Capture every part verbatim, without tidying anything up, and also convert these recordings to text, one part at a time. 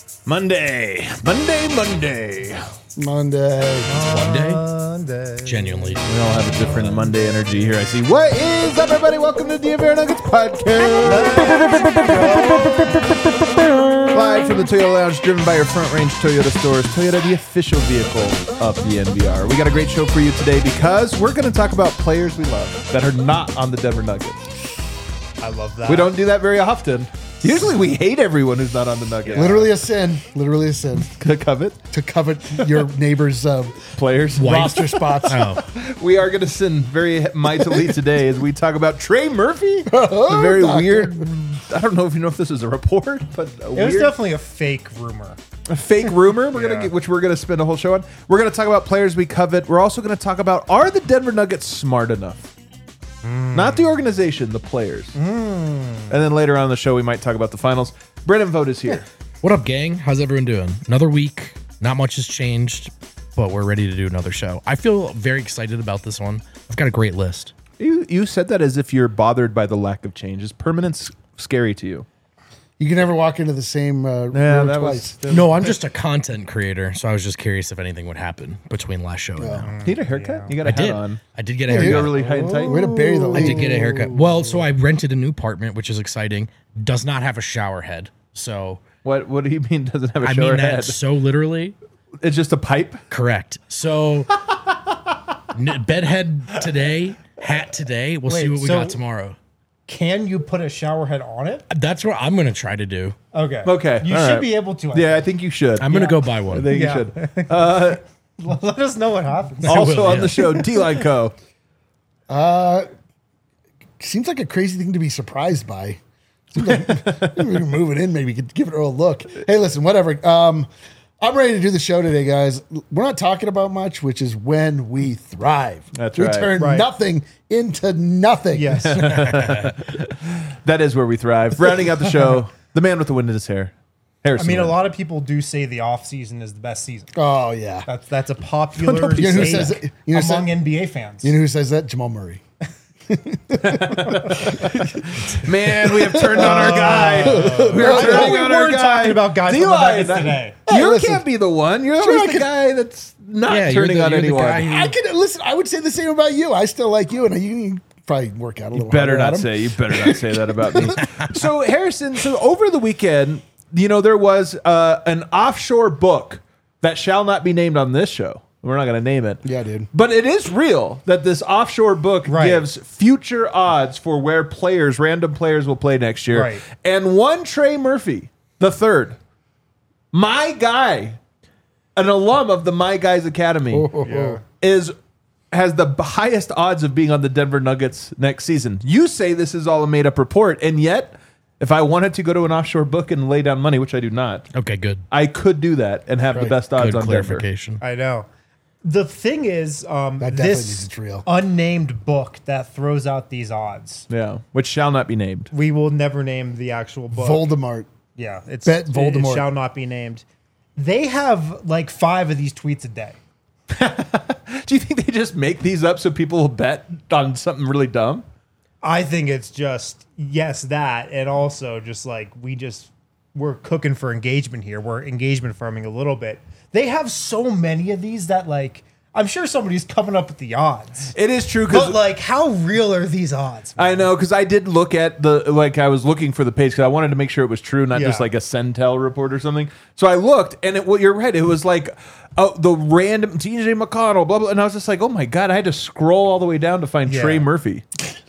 Monday, Monday, Monday, Monday. Monday? Monday. Genuinely. We all have a different Monday energy here. I see. What is up, everybody? Welcome to the Bear Nuggets podcast. Live from the Toyota Lounge, driven by your Front Range Toyota stores. Toyota, the official vehicle of the N B R. We got a great show for you today because we're going to talk about players we love that are not on the Denver Nuggets. I love that. We don't do that very often. Usually we hate everyone who's not on the Nuggets. Literally a sin. Literally a sin Covet to covet your neighbor's uh, players. roster spots. Oh, We are going to sin very mightily today as we talk about Trey Murphy. A very Doctor. weird. I don't know if you know if this is a report, but a It was weird, definitely a fake rumor. a fake rumor. We're gonna Yeah. get, which we're gonna spend a whole show on. We're gonna talk about players we covet. We're also gonna talk about, are the Denver Nuggets smart enough? Not the organization, the players. And then later on in the show, we might talk about the finals. Brennan Vogt is here. what up, gang? How's everyone doing? Another week. Not much has changed, but we're ready to do another show. I feel very excited about this one. I've got a great list. You you said that as if you're bothered by the lack of change. Is permanence scary to you? You can never walk into the same uh, Yeah, room that twice. was. No, I'm just a content creator, so I was just curious if anything would happen between last show and now. You need a haircut? You got a I hat did. on. I did get a Yeah, You haircut. got really high and tight. Way to bury the I lead. did get a haircut. Well, so I rented a new apartment, which is exciting. Does not have a shower head. So What What do you mean doesn't have a I shower mean that head? so literally. It's just a pipe. Correct. So n- bedhead today, hat today. We'll see Wait, what we so- got tomorrow. Can you put a shower head on it? That's what I'm going to try to do. Okay. Okay, You all should right. be able to. I Yeah, I think. think you should. I'm going to Yeah. go buy I one. think Yeah. you should. Uh, Let us know what happens. also will, on yeah. the show, D-Line Co. Seems like a crazy thing to be surprised by. Seems like maybe we can move it in. Maybe we could give it a look. Hey, listen, whatever. Um, I'm ready to do the show today, guys. We're not talking about much, which is when we thrive. That's we right. turn Right. nothing into nothing. Yes. That is where we thrive. Rounding out the show, the man with the wind in his hair. I Harrison mean, a Wind. lot of people do say the off season is the best season. Oh yeah. That's that's a popular Nobody You know who take says that? You know who among said- N B A fans. You know who says that? Jamal Murray. Man, we have turned on our guy. We're I thought turning we on our weren't guy. talking about guys from the D-Line, Nuggets today. You Hey, listen. can't be the one. You're Sure, always I the could- guy that's not Yeah, you're turning the- on you're the anyone. guy who- I could listen. I would say the same about you. I still like you, and you can probably work out a little. Better harder, not Adam. say. You better not say that about me. So Harrison, so over the weekend, you know, there was uh, an offshore book that shall not be named on this show. We're not going to name it. Yeah, dude. But it is real that this offshore book Right. gives future odds for where players, random players, will play next year. Right. And one Trey Murphy, the third, my guy, an alum of the My Guys Academy, Yeah. is has the b- highest odds of being on the Denver Nuggets next season. You say this is all a made up report, and yet, if I wanted to go to an offshore book and lay down money, which I do not, Okay, good. I could do that and have the Right. best odds Good on Denver. clarification. I know. The thing is, um, That definitely this means it's real. unnamed book that throws out these odds. Yeah, which shall not be named. We will never name the actual book. Voldemort. Yeah, it's Bet it- Voldemort. It shall not be named. They have like five of these tweets a day. Do you think they just make these up so people will bet on something really dumb? I think it's just yes that, and also just like we just we're cooking for engagement here. We're engagement farming a little bit. They have so many of these that like I'm sure somebody's coming up with the odds. It is true because But like, how real are these odds? I know, because I did look at the, like, I was looking for the page because I wanted to make sure it was true, not just Yeah. like a Centel report or something. So I looked, and it, well, you're right. It was like uh, the random T J McConnell, blah, blah. And I was just like, oh my God, I had to scroll all the way down to find Yeah. Trey Murphy.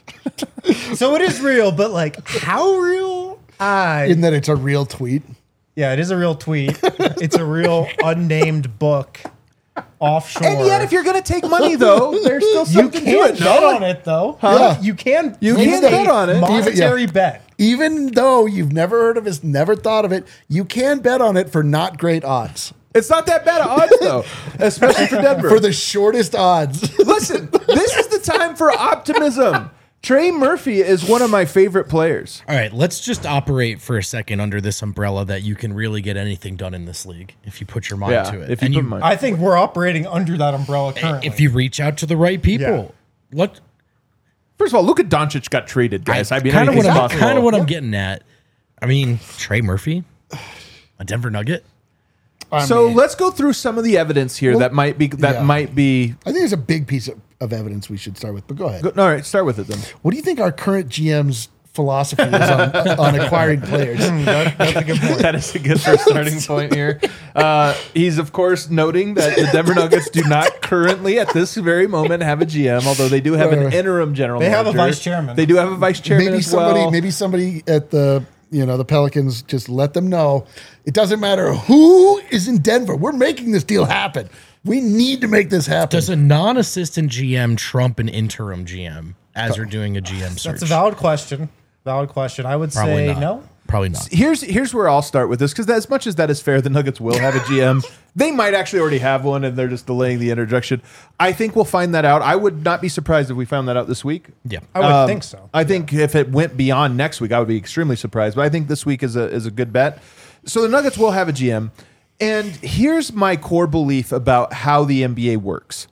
So it is real, but like, how real? I In that it's a real tweet. yeah, it is a real tweet. It's a real unnamed book offshore. And yet, if you're going to take money, though, there's still you something to can it. bet no? on it though. Huh? You can. You place can a bet on it. Monetary Even- bet. Even though you've never heard of it, never thought of it, you can bet on it for not great odds. It's not that bad of odds, though, especially for Denver. For the shortest odds. Listen, this is the time for optimism. Trey Murphy is one of my favorite players. All right, let's just operate for a second under this umbrella that you can really get anything done in this league if you put your mind Yeah, to it. if you And put mind- I think we're operating under that umbrella currently. if you reach out to the right people. Look, First of all, Luka Doncic got traded, guys. I, mean, kind of what anything's I'm possible. kind of what I'm getting at. I mean, Trey Murphy. A Denver Nugget? I So mean, let's go through some of the evidence here Well, that might be that yeah. might be. I think there's a big piece of, of evidence we should start with, but go ahead. Go, all right, start with it then. What do you think our current G M's philosophy is on, on acquiring players? That- that's a good point. That is a good first starting point here. Uh, he's of course noting that the Denver Nuggets do not currently, at this very moment, have a G M. Although they do have an interim general. They have a manager. vice chairman. They do have a vice chairman Maybe as somebody, well. maybe somebody at the you know the Pelicans just let them know it doesn't matter who is in Denver. We're making this deal happen. We need to make this happen. Does a non-assistant G M trump an interim G M as you're doing a G M search? That's a valid question. Valid question. I would Probably say not. no. Probably not. Here's here's where I'll start with this because as much as that is fair, the Nuggets will have a G M. They might actually already have one, and they're just delaying the introduction. I think we'll find that out. I would not be surprised if we found that out this week. Yeah. I would Um, think so. I think if it went beyond next week, I would be extremely surprised. But I think this week is a is a good bet. So the Nuggets will have a G M, and here's my core belief about how the N B A works.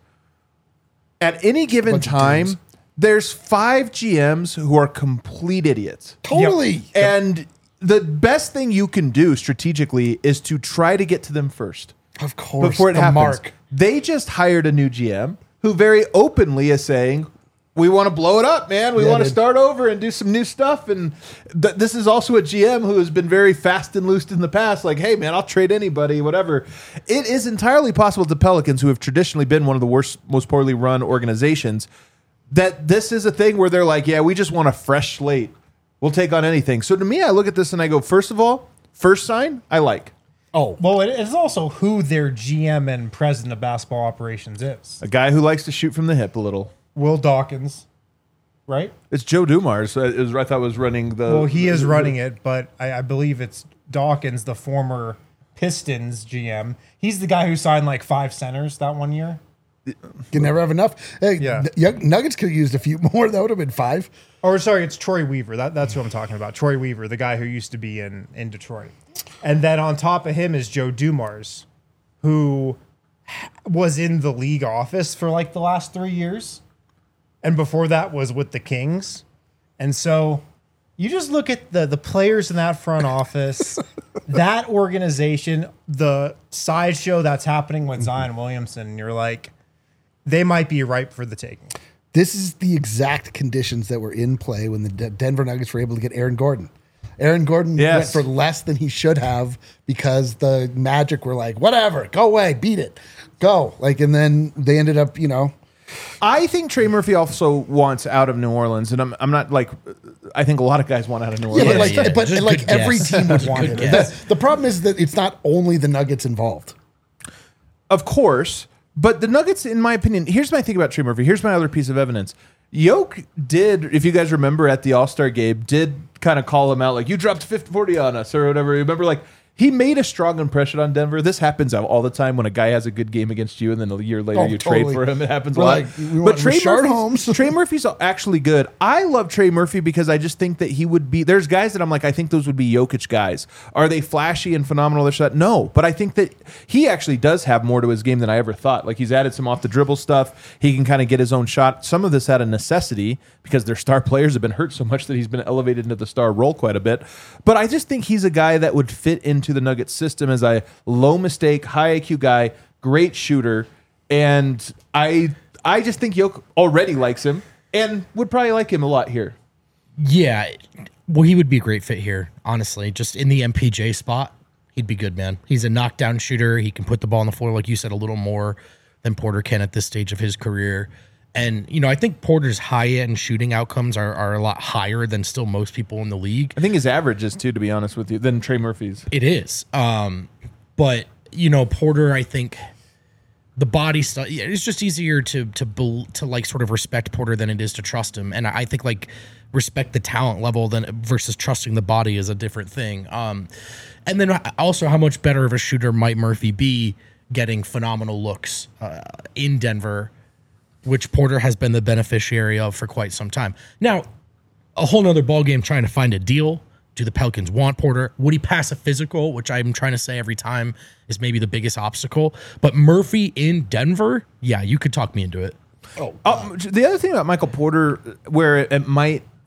At any given Bunch of time, teams. there's five G Ms who are complete idiots. Totally. And the best thing you can do strategically is to try to get to them first Of course. before it the happens. mark. They just hired a new G M who very openly is saying, we want to blow it up, man. We Yeah, want to dude. start over and do some new stuff. And th- this is also a G M who has been very fast and loose in the past. Like, hey, man, I'll trade anybody, whatever. It is entirely possible to Pelicans, who have traditionally been one of the worst, most poorly run organizations, that this is a thing where they're like, yeah, we just want a fresh slate. We'll take on anything. So to me, I look at this and I go, first of all, first sign, I like. Oh, Well, it is also who their G M and president of basketball operations is. A guy who likes to shoot from the hip a little. Will Dawkins, right? It's Joe Dumars. uh, It was, I thought was running the. Well, he is running it, but I, I believe it's Dawkins, the former Pistons G M. He's the guy who signed like five centers that one year. can never have enough. Hey, Yeah. the Young- Nuggets could have used a few more. That would have been five. Or sorry, it's Troy Weaver. That, that's who I'm talking about. Troy Weaver, the guy who used to be in, in Detroit. And then on top of him is Joe Dumars, who was in the league office for like the last three years. And before that was with the Kings. And so you just look at the, the players in that front office, that organization, the sideshow that's happening with Zion Williamson, and you're like, they might be ripe for the taking. This is the exact conditions that were in play when the D- Denver Nuggets were able to get Aaron Gordon. Aaron Gordon Yes. went for less than he should have because the Magic were like, whatever, go away, beat it, go. Like, and then they ended up, you know, I think Trey Murphy also wants out of New Orleans, and I'm I'm not like I think a lot of guys want out of New yeah, Orleans. but like, yeah. but Just like good every guess. team would want Good him. guess. The, the problem is that it's not only the Nuggets involved. Of course, but the Nuggets, in my opinion, here's my thing about Trey Murphy. Here's my other piece of evidence. Yoke did, if you guys remember at the All-Star game, did kind of call him out like, you dropped fifty forty on us or whatever. Remember, like, he made a strong impression on Denver. This happens all the time when a guy has a good game against you and then a year later Oh, you totally. trade for him. It happens We're a lot. like, we want Rashard Holmes. Trey Murphy's actually good. I love Trey Murphy because I just think that he would be, there's guys that I'm like, I think those would be Jokic guys. Are they flashy and phenomenal? This, that? No, but I think that he actually does have more to his game than I ever thought. Like he's added some off the dribble stuff. He can kind of get his own shot. Some of this out of necessity because their star players have been hurt so much that he's been elevated into the star role quite a bit. But I just think he's a guy that would fit into the Nuggets system as a low mistake, high I Q guy, great shooter. And I I just think Yoke already likes him and would probably like him a lot here. Yeah. Well, he would be a great fit here, honestly. Just in the M P J spot, he'd be good, man. He's a knockdown shooter. He can put the ball on the floor, like you said, a little more than Porter can at this stage of his career. And, you know, I think Porter's high-end shooting outcomes are, are a lot higher than still most people in the league. I think his average is too, to be honest with you, than Trey Murphy's. It is. Um, but, you know, Porter, I think the body stuff, yeah, it's just easier to, to, bel- to like sort of respect Porter than it is to trust him. And I think like respect the talent level than versus trusting the body is a different thing. Um, and then also how much better of a shooter might Murphy be getting phenomenal looks uh, in Denver, which Porter has been the beneficiary of for quite some time. Now, a whole nother ballgame trying to find a deal. Do the Pelicans want Porter? Would he pass a physical, which I'm trying to say every time is maybe the biggest obstacle? But Murphy in Denver, yeah, you could talk me into it. Oh, Um, the other thing about Michael Porter, where it, it might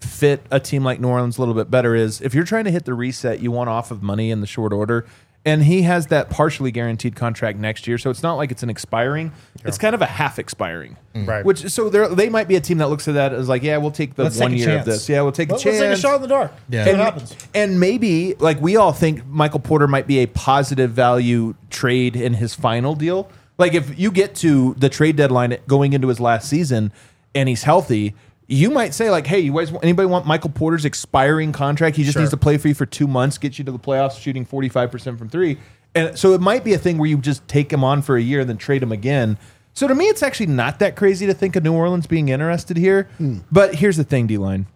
fit a team like New Orleans a little bit better is if you're trying to hit the reset, you want off of money in the short order. And he has that partially guaranteed contract next year, so it's not like it's an expiring. Sure. It's kind of a half expiring, mm. right? Which so they might be a team that looks at that as like, yeah, we'll take the let's one take year of this. Yeah, we'll take let's, a chance. Let's take a shot in the dark. Yeah, See and, what happens. And maybe like we all think Michael Porter might be a positive value trade in his final deal. Like if you get to the trade deadline going into his last season and he's healthy, you might say like, hey, you guys, anybody want Michael Porter's expiring contract? He just Sure. needs to play for you for two months, get you to the playoffs, shooting forty-five percent from three. And so it might be a thing where you just take him on for a year and then trade him again. So to me, it's actually not that crazy to think of New Orleans being interested here. Mm. But here's the thing, D-Line.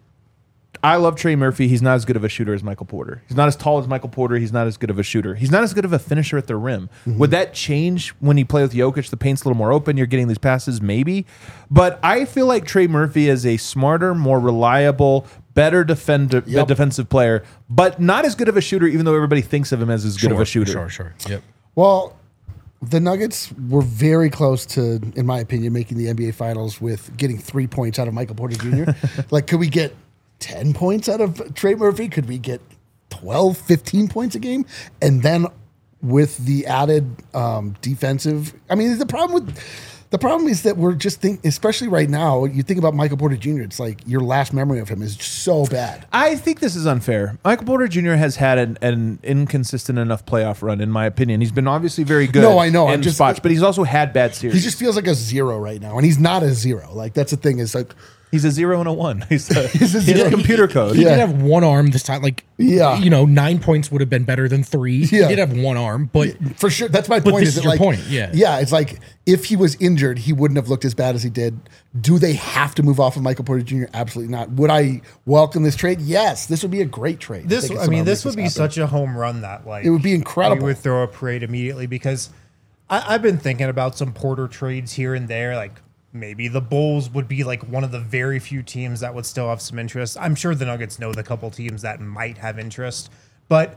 I love Trey Murphy. He's not as good of a shooter as Michael Porter. He's not as tall as Michael Porter. He's not as good of a shooter. He's not as good of a finisher at the rim. Mm-hmm. Would that change when you play with Jokic? The paint's a little more open. You're getting these passes, maybe. But I feel like Trey Murphy is a smarter, more reliable, better defender, Yep. defensive player, but not as good of a shooter, even though everybody thinks of him as as good sure, of a shooter. Sure, sure. Yep. Well, the Nuggets were very close to, in my opinion, making the N B A Finals with getting three points out of Michael Porter Junior Like, could we get ten points out of Trey Murphy? Could we get twelve, fifteen points a game? And then with the added um, defensive, I mean, the problem with the problem is that we're just think, especially right now, you think about Michael Porter Junior, it's like your last memory of him is so bad. I think this is unfair. Michael Porter Junior has had an, an inconsistent enough playoff run, in my opinion. He's been obviously very good. No, I know. In I'm just- spots, but he's also had bad series. He just feels like a zero right now, and he's not a zero. Like, that's the thing is like, He's a zero and a one. He's a, He's a he's zero. a computer code. He Yeah. did have one arm this time. Like, Yeah. you know, nine points would have been better than three. Yeah. He did have one arm, but for sure, that's my But point. this is is it your like, point, yeah. yeah, it's like if he was injured, he wouldn't have looked as bad as he did. Do they have to move off of Michael Porter Junior? Absolutely not. Would I welcome this trade? Yes, this would be a great trade. This, think I if mean, somehow this makes would be happen. such a home run that like It would be incredible. We would throw a parade immediately because I, I've been thinking about some Porter trades here and there. Like maybe the Bulls would be like one of the very few teams that would still have some interest. I'm sure the Nuggets know the couple teams that might have interest, but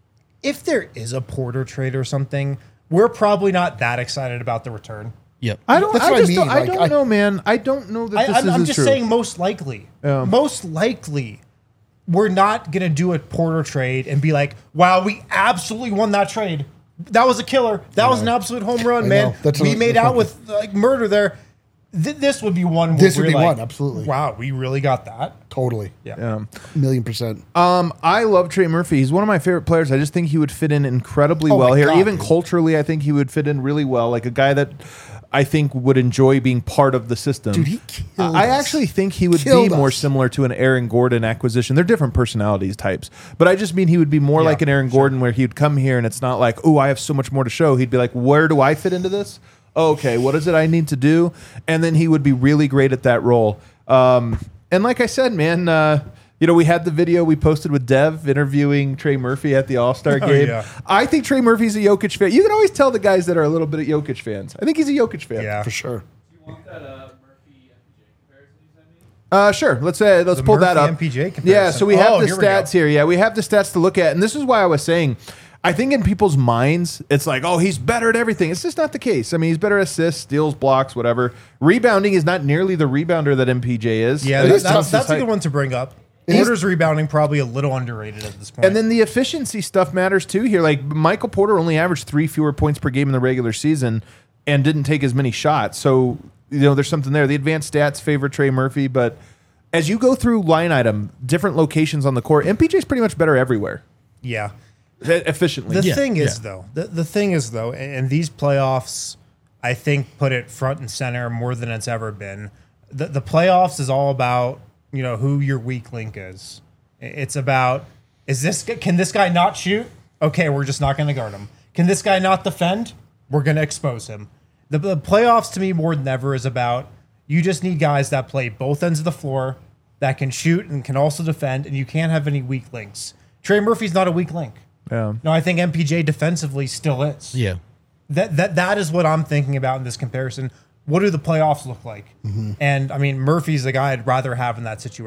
if there is a Porter trade or something, we're probably not that excited about the return. yep. I don't. That's I what I just mean, don't, I like, don't I- know, man. I don't know that I, this I'm, is I'm as just true. saying most likely. Yeah. Most likely, we're not going to do a Porter trade and be like, wow, we absolutely won that trade. That was a killer. That was an absolute home run, I man. know. That's we what- made that's out what- with like murder there. Th- this would be one. Where This would we're be like, one, absolutely. Wow, we really got that. Totally. Yeah. Yeah. Million percent. Um, I love Trey Murphy. He's one of my favorite players. I just think he would fit in incredibly Oh well my here. God, Even dude. culturally, I think he would fit in really well. Like a guy that I think would enjoy being part of the system. Dude, he killed I us. actually think he would Killed be more us. similar to an Aaron Gordon acquisition. They're different personalities types, but I just mean he would be more Yeah, like an Aaron Gordon, where he'd come here and it's not like, oh, I have so much more to show. He'd be like, where do I fit into this? Okay, what is it I need to do? And then he would be really great at that role. Um, and like I said, man, uh, you know, we had the video we posted with Dev interviewing Trey Murphy at the All-Star Oh, game. yeah. I think Trey Murphy's a Jokic fan. You can always tell the guys that are a little bit of Jokic fans. I think he's a Jokic fan. Yeah. For sure. Uh, sure. Let's uh, let's The pull that Murphy up. M P J comparison. Yeah, so we have Oh, the here we go. stats here. Yeah, we have the stats to look at, and this is why I was saying, I think in people's minds, it's like, oh, he's better at everything. It's just not the case. I mean, he's better at assists, steals, blocks, whatever. Rebounding is not nearly the rebounder that M P J is. Yeah, I think that- it's that's, tough to that's a cite. good one to bring up. is- Porter's rebounding probably a little underrated at this point. And then the efficiency stuff matters too here. Like Michael Porter only averaged three fewer points per game in the regular season and didn't take as many shots. So, you know, there's something there. The advanced stats favor Trey Murphy, but as you go through line item, different locations on the court, M P J's pretty much better everywhere. yeah. e- Efficiently. The Yeah, thing is, yeah. though, the, the thing is, though, and, and these playoffs, I think, put it front and center more than it's ever been. The, the playoffs is all about, you know, who your weak link is. I- It's about, is this, g- can this guy not shoot? Okay, we're just not going to guard him. Can this guy not defend? We're going to expose him. The, the playoffs, to me, more than ever, is about, you just need guys that play both ends of the floor, that can shoot and can also defend, and you can't have any weak links. Trey Murphy's not a weak link. Yeah. No, I think M P J defensively still is. Yeah. That that that is what I'm thinking about in this comparison. What do the playoffs look like? Mm-hmm. And I mean, Murphy's the guy I'd rather have in that situation.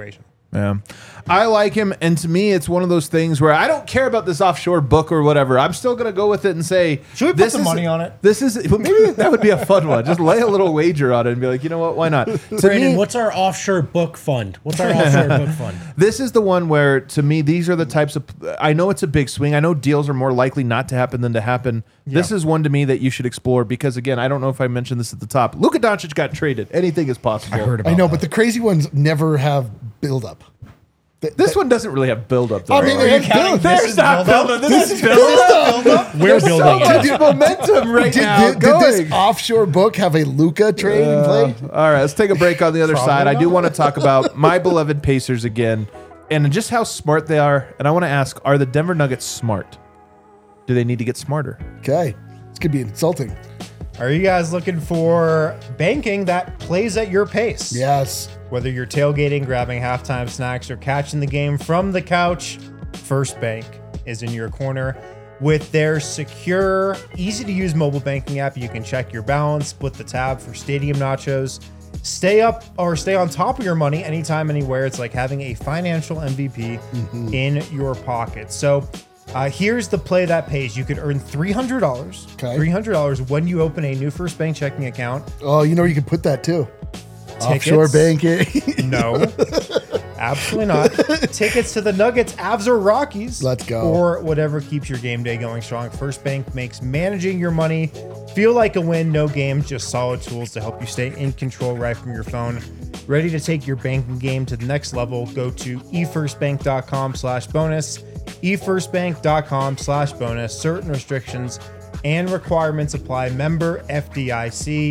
Yeah. I like him, and to me, it's one of those things where I don't care about this offshore book or whatever. I'm still going to go with it and say, Should we put this some is- money on it? This is well, maybe that would be a fun one. Just lay a little wager on it and be like, you know what? Why not? To Brandon, me, what's our offshore book fund? What's our offshore book fund? this is the one where, to me, these are the types of. I know it's a big swing. I know deals are more likely not to happen than to happen. This is one to me that you should explore because, again, I don't know if I mentioned this at the top. Luka Doncic got traded. Anything is possible. I heard about I know, that. but the crazy ones never have buildup. Th- This th- one doesn't really have build-up, though. I mean, right? it has build. There's not build-up. This is build-up. We're So building much it. momentum right Did, now did, did going. this offshore book have a Luca trade in play? All right, let's take a break on the other Probably side. I do not. want to talk about my beloved Pacers again and just how smart they are. And I want to ask, are the Denver Nuggets smart? Do they need to get smarter? Okay, this could be insulting. Are you guys looking for banking that plays at your pace? Yes. Whether you're tailgating, grabbing halftime snacks, or catching the game from the couch, First Bank is in your corner. With their secure, easy to use mobile banking app, you can check your balance, split the tab for stadium nachos, stay up or stay on top of your money anytime, anywhere. It's like having a financial M V P Mm-hmm. in your pocket. So uh, here's the play that pays. You could earn three hundred dollars. Okay. three hundred dollars when you open a new First Bank checking account. Oh, you know where you can put that too. Tickets. Offshore banking. No, absolutely not. Tickets to the Nuggets, Avs, or Rockies. Let's go. Or whatever keeps your game day going strong. First Bank makes managing your money feel like a win. No games, just solid tools to help you stay in control right from your phone. Ready to take your banking game to the next level? Go to efirstbank.com slash bonus. efirstbank.com slash bonus. Certain restrictions and requirements apply. Member F D I C.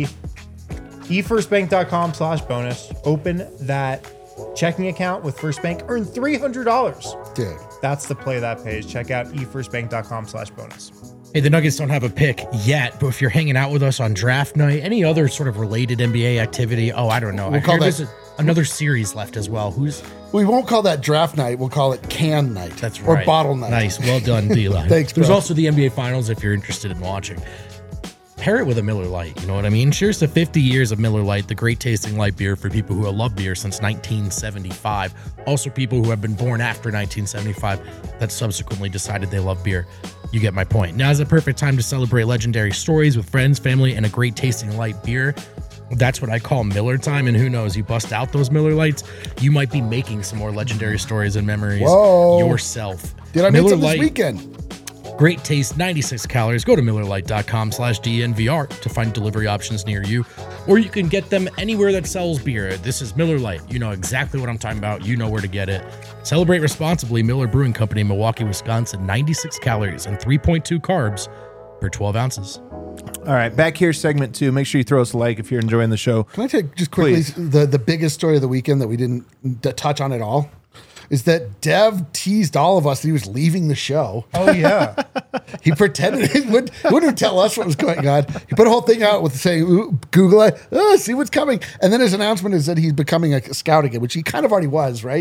efirstbank.com slash bonus. Open that checking account with First Bank. Earn three hundred dollars. Dude. That's the play that pays. Check out efirstbank.com slash bonus. Hey, the Nuggets don't have a pick yet, but if you're hanging out with us on draft night, any other sort of related N B A activity, oh, I don't know. I call hear that- there's a, another series left as well. Who's We won't call that draft night. We'll call it can night. that's or right. bottle night. Nice, well done, D-Line. Thanks, There's bro. also the N B A Finals if you're interested in watching. Pair it with a Miller Lite, you know what I mean? Cheers to fifty years of Miller Lite, the great tasting light beer for people who have loved beer since nineteen seventy-five. Also people who have been born after nineteen seventy-five that subsequently decided they love beer. You get my point. Now is the perfect time to celebrate legendary stories with friends, family, and a great tasting light beer. That's what I call Miller time, and who knows, you bust out those Miller Lights, you might be making some more legendary stories and memories Whoa. yourself. Did I make Miller some this Lite, weekend? Great taste, ninety-six calories. Go to MillerLite.com slash DNVR to find delivery options near you. Or you can get them anywhere that sells beer. This is Miller Lite. You know exactly what I'm talking about. You know where to get it. Celebrate responsibly. Miller Brewing Company, Milwaukee, Wisconsin. ninety-six calories and three point two carbs per twelve ounces. All right, back here, segment two. Make sure you throw us a like if you're enjoying the show. Can I take just quickly Please. the, the biggest story of the weekend that we didn't d- touch on at all? Is that Dev teased all of us that he was leaving the show. Oh, yeah. He pretended he wouldn't, he wouldn't tell us what was going on. He put a whole thing out with saying, "Ooh, Google it, oh, see what's coming." And then his announcement is that he's becoming a scout again, which he kind of already was, right?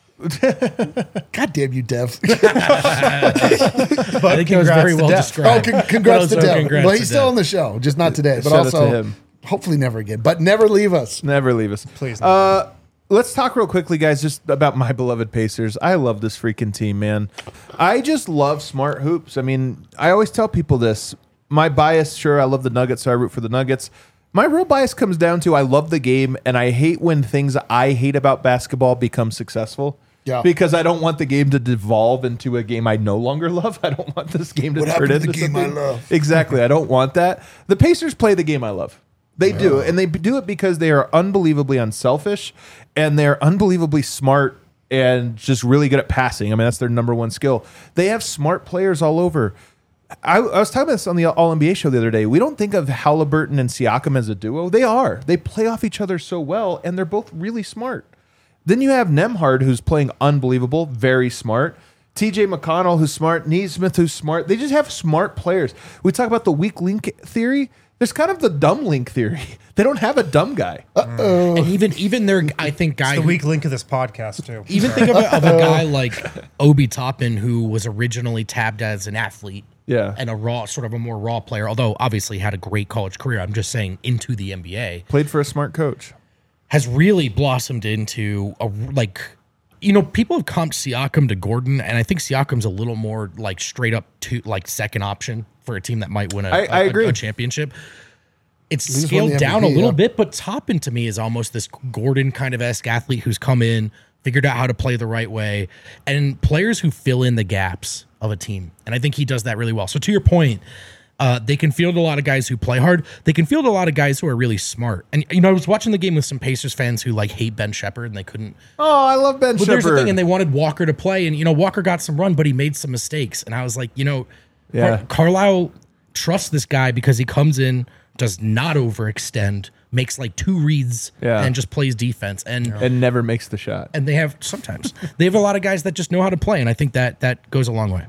God damn you, Dev. But I think that was very well Oh, described. con- congrats to Also, Dev. congrats Well, to he's still Dev. on the show, just not today, but Shout out also to him. hopefully never again. But never leave us. Never leave us. Please. Uh, let's talk real quickly, guys, just about my beloved Pacers. I love this freaking team, man. I just love smart hoops. I mean, I always tell people this. My bias, sure, I love the Nuggets, so I root for the Nuggets. My real bias comes down to I love the game, and I hate when things I hate about basketball become successful. Yeah. Because I don't want the game to devolve into a game I no longer love. I don't want this game to What turn happened to into the game I something. love? Exactly. I don't want that. The Pacers play the game I love. They do, and they do it because they are unbelievably unselfish, and they're unbelievably smart and just really good at passing. I mean, that's their number one skill. They have smart players all over. I, I was talking about this on the All N B A show the other day. We don't think of Halliburton and Siakam as a duo. They are. They play off each other so well, and they're both really smart. Then you have Nembhard, who's playing unbelievable, very smart. T J McConnell, who's smart. Neesmith, who's smart. They just have smart players. We talk about the weak link theory. There's kind of the dumb link theory. They don't have a dumb guy. And even even their, I think, guy the who- weak link of this podcast, too. even think of a, of a guy like Obi Toppin, who was originally tabbed as an athlete. Yeah. And a raw, sort of a more raw player, although obviously had a great college career. I'm just saying into the N B A Played for a smart coach. has really blossomed into a like you know, people have comped Siakam to Gordon, and I think Siakam's a little more like straight up to like second option for a team that might win a, I- I a- agree. a championship. It's He's won scaled the down M V P, a little yeah. bit, but Toppin to me is almost this Gordon kind of esque athlete who's come in, figured out how to play the right way, and players who fill in the gaps of a team. And I think he does that really well. So to your point, uh, they can field a lot of guys who play hard. They can field a lot of guys who are really smart. And you know, I was watching the game with some Pacers fans who like hate Ben Shepherd and they couldn't. Oh, I love Ben But there's the Shepherd. thing, and they wanted Walker to play, and you know, Walker got some run, but he made some mistakes. And I was like, you know, Yeah. Car- Carlisle trusts this guy because he comes in, does not overextend, makes like two reads, Yeah. and just plays defense. And and never makes the shot. and they have sometimes they have a lot of guys that just know how to play, and I think that that goes a long way.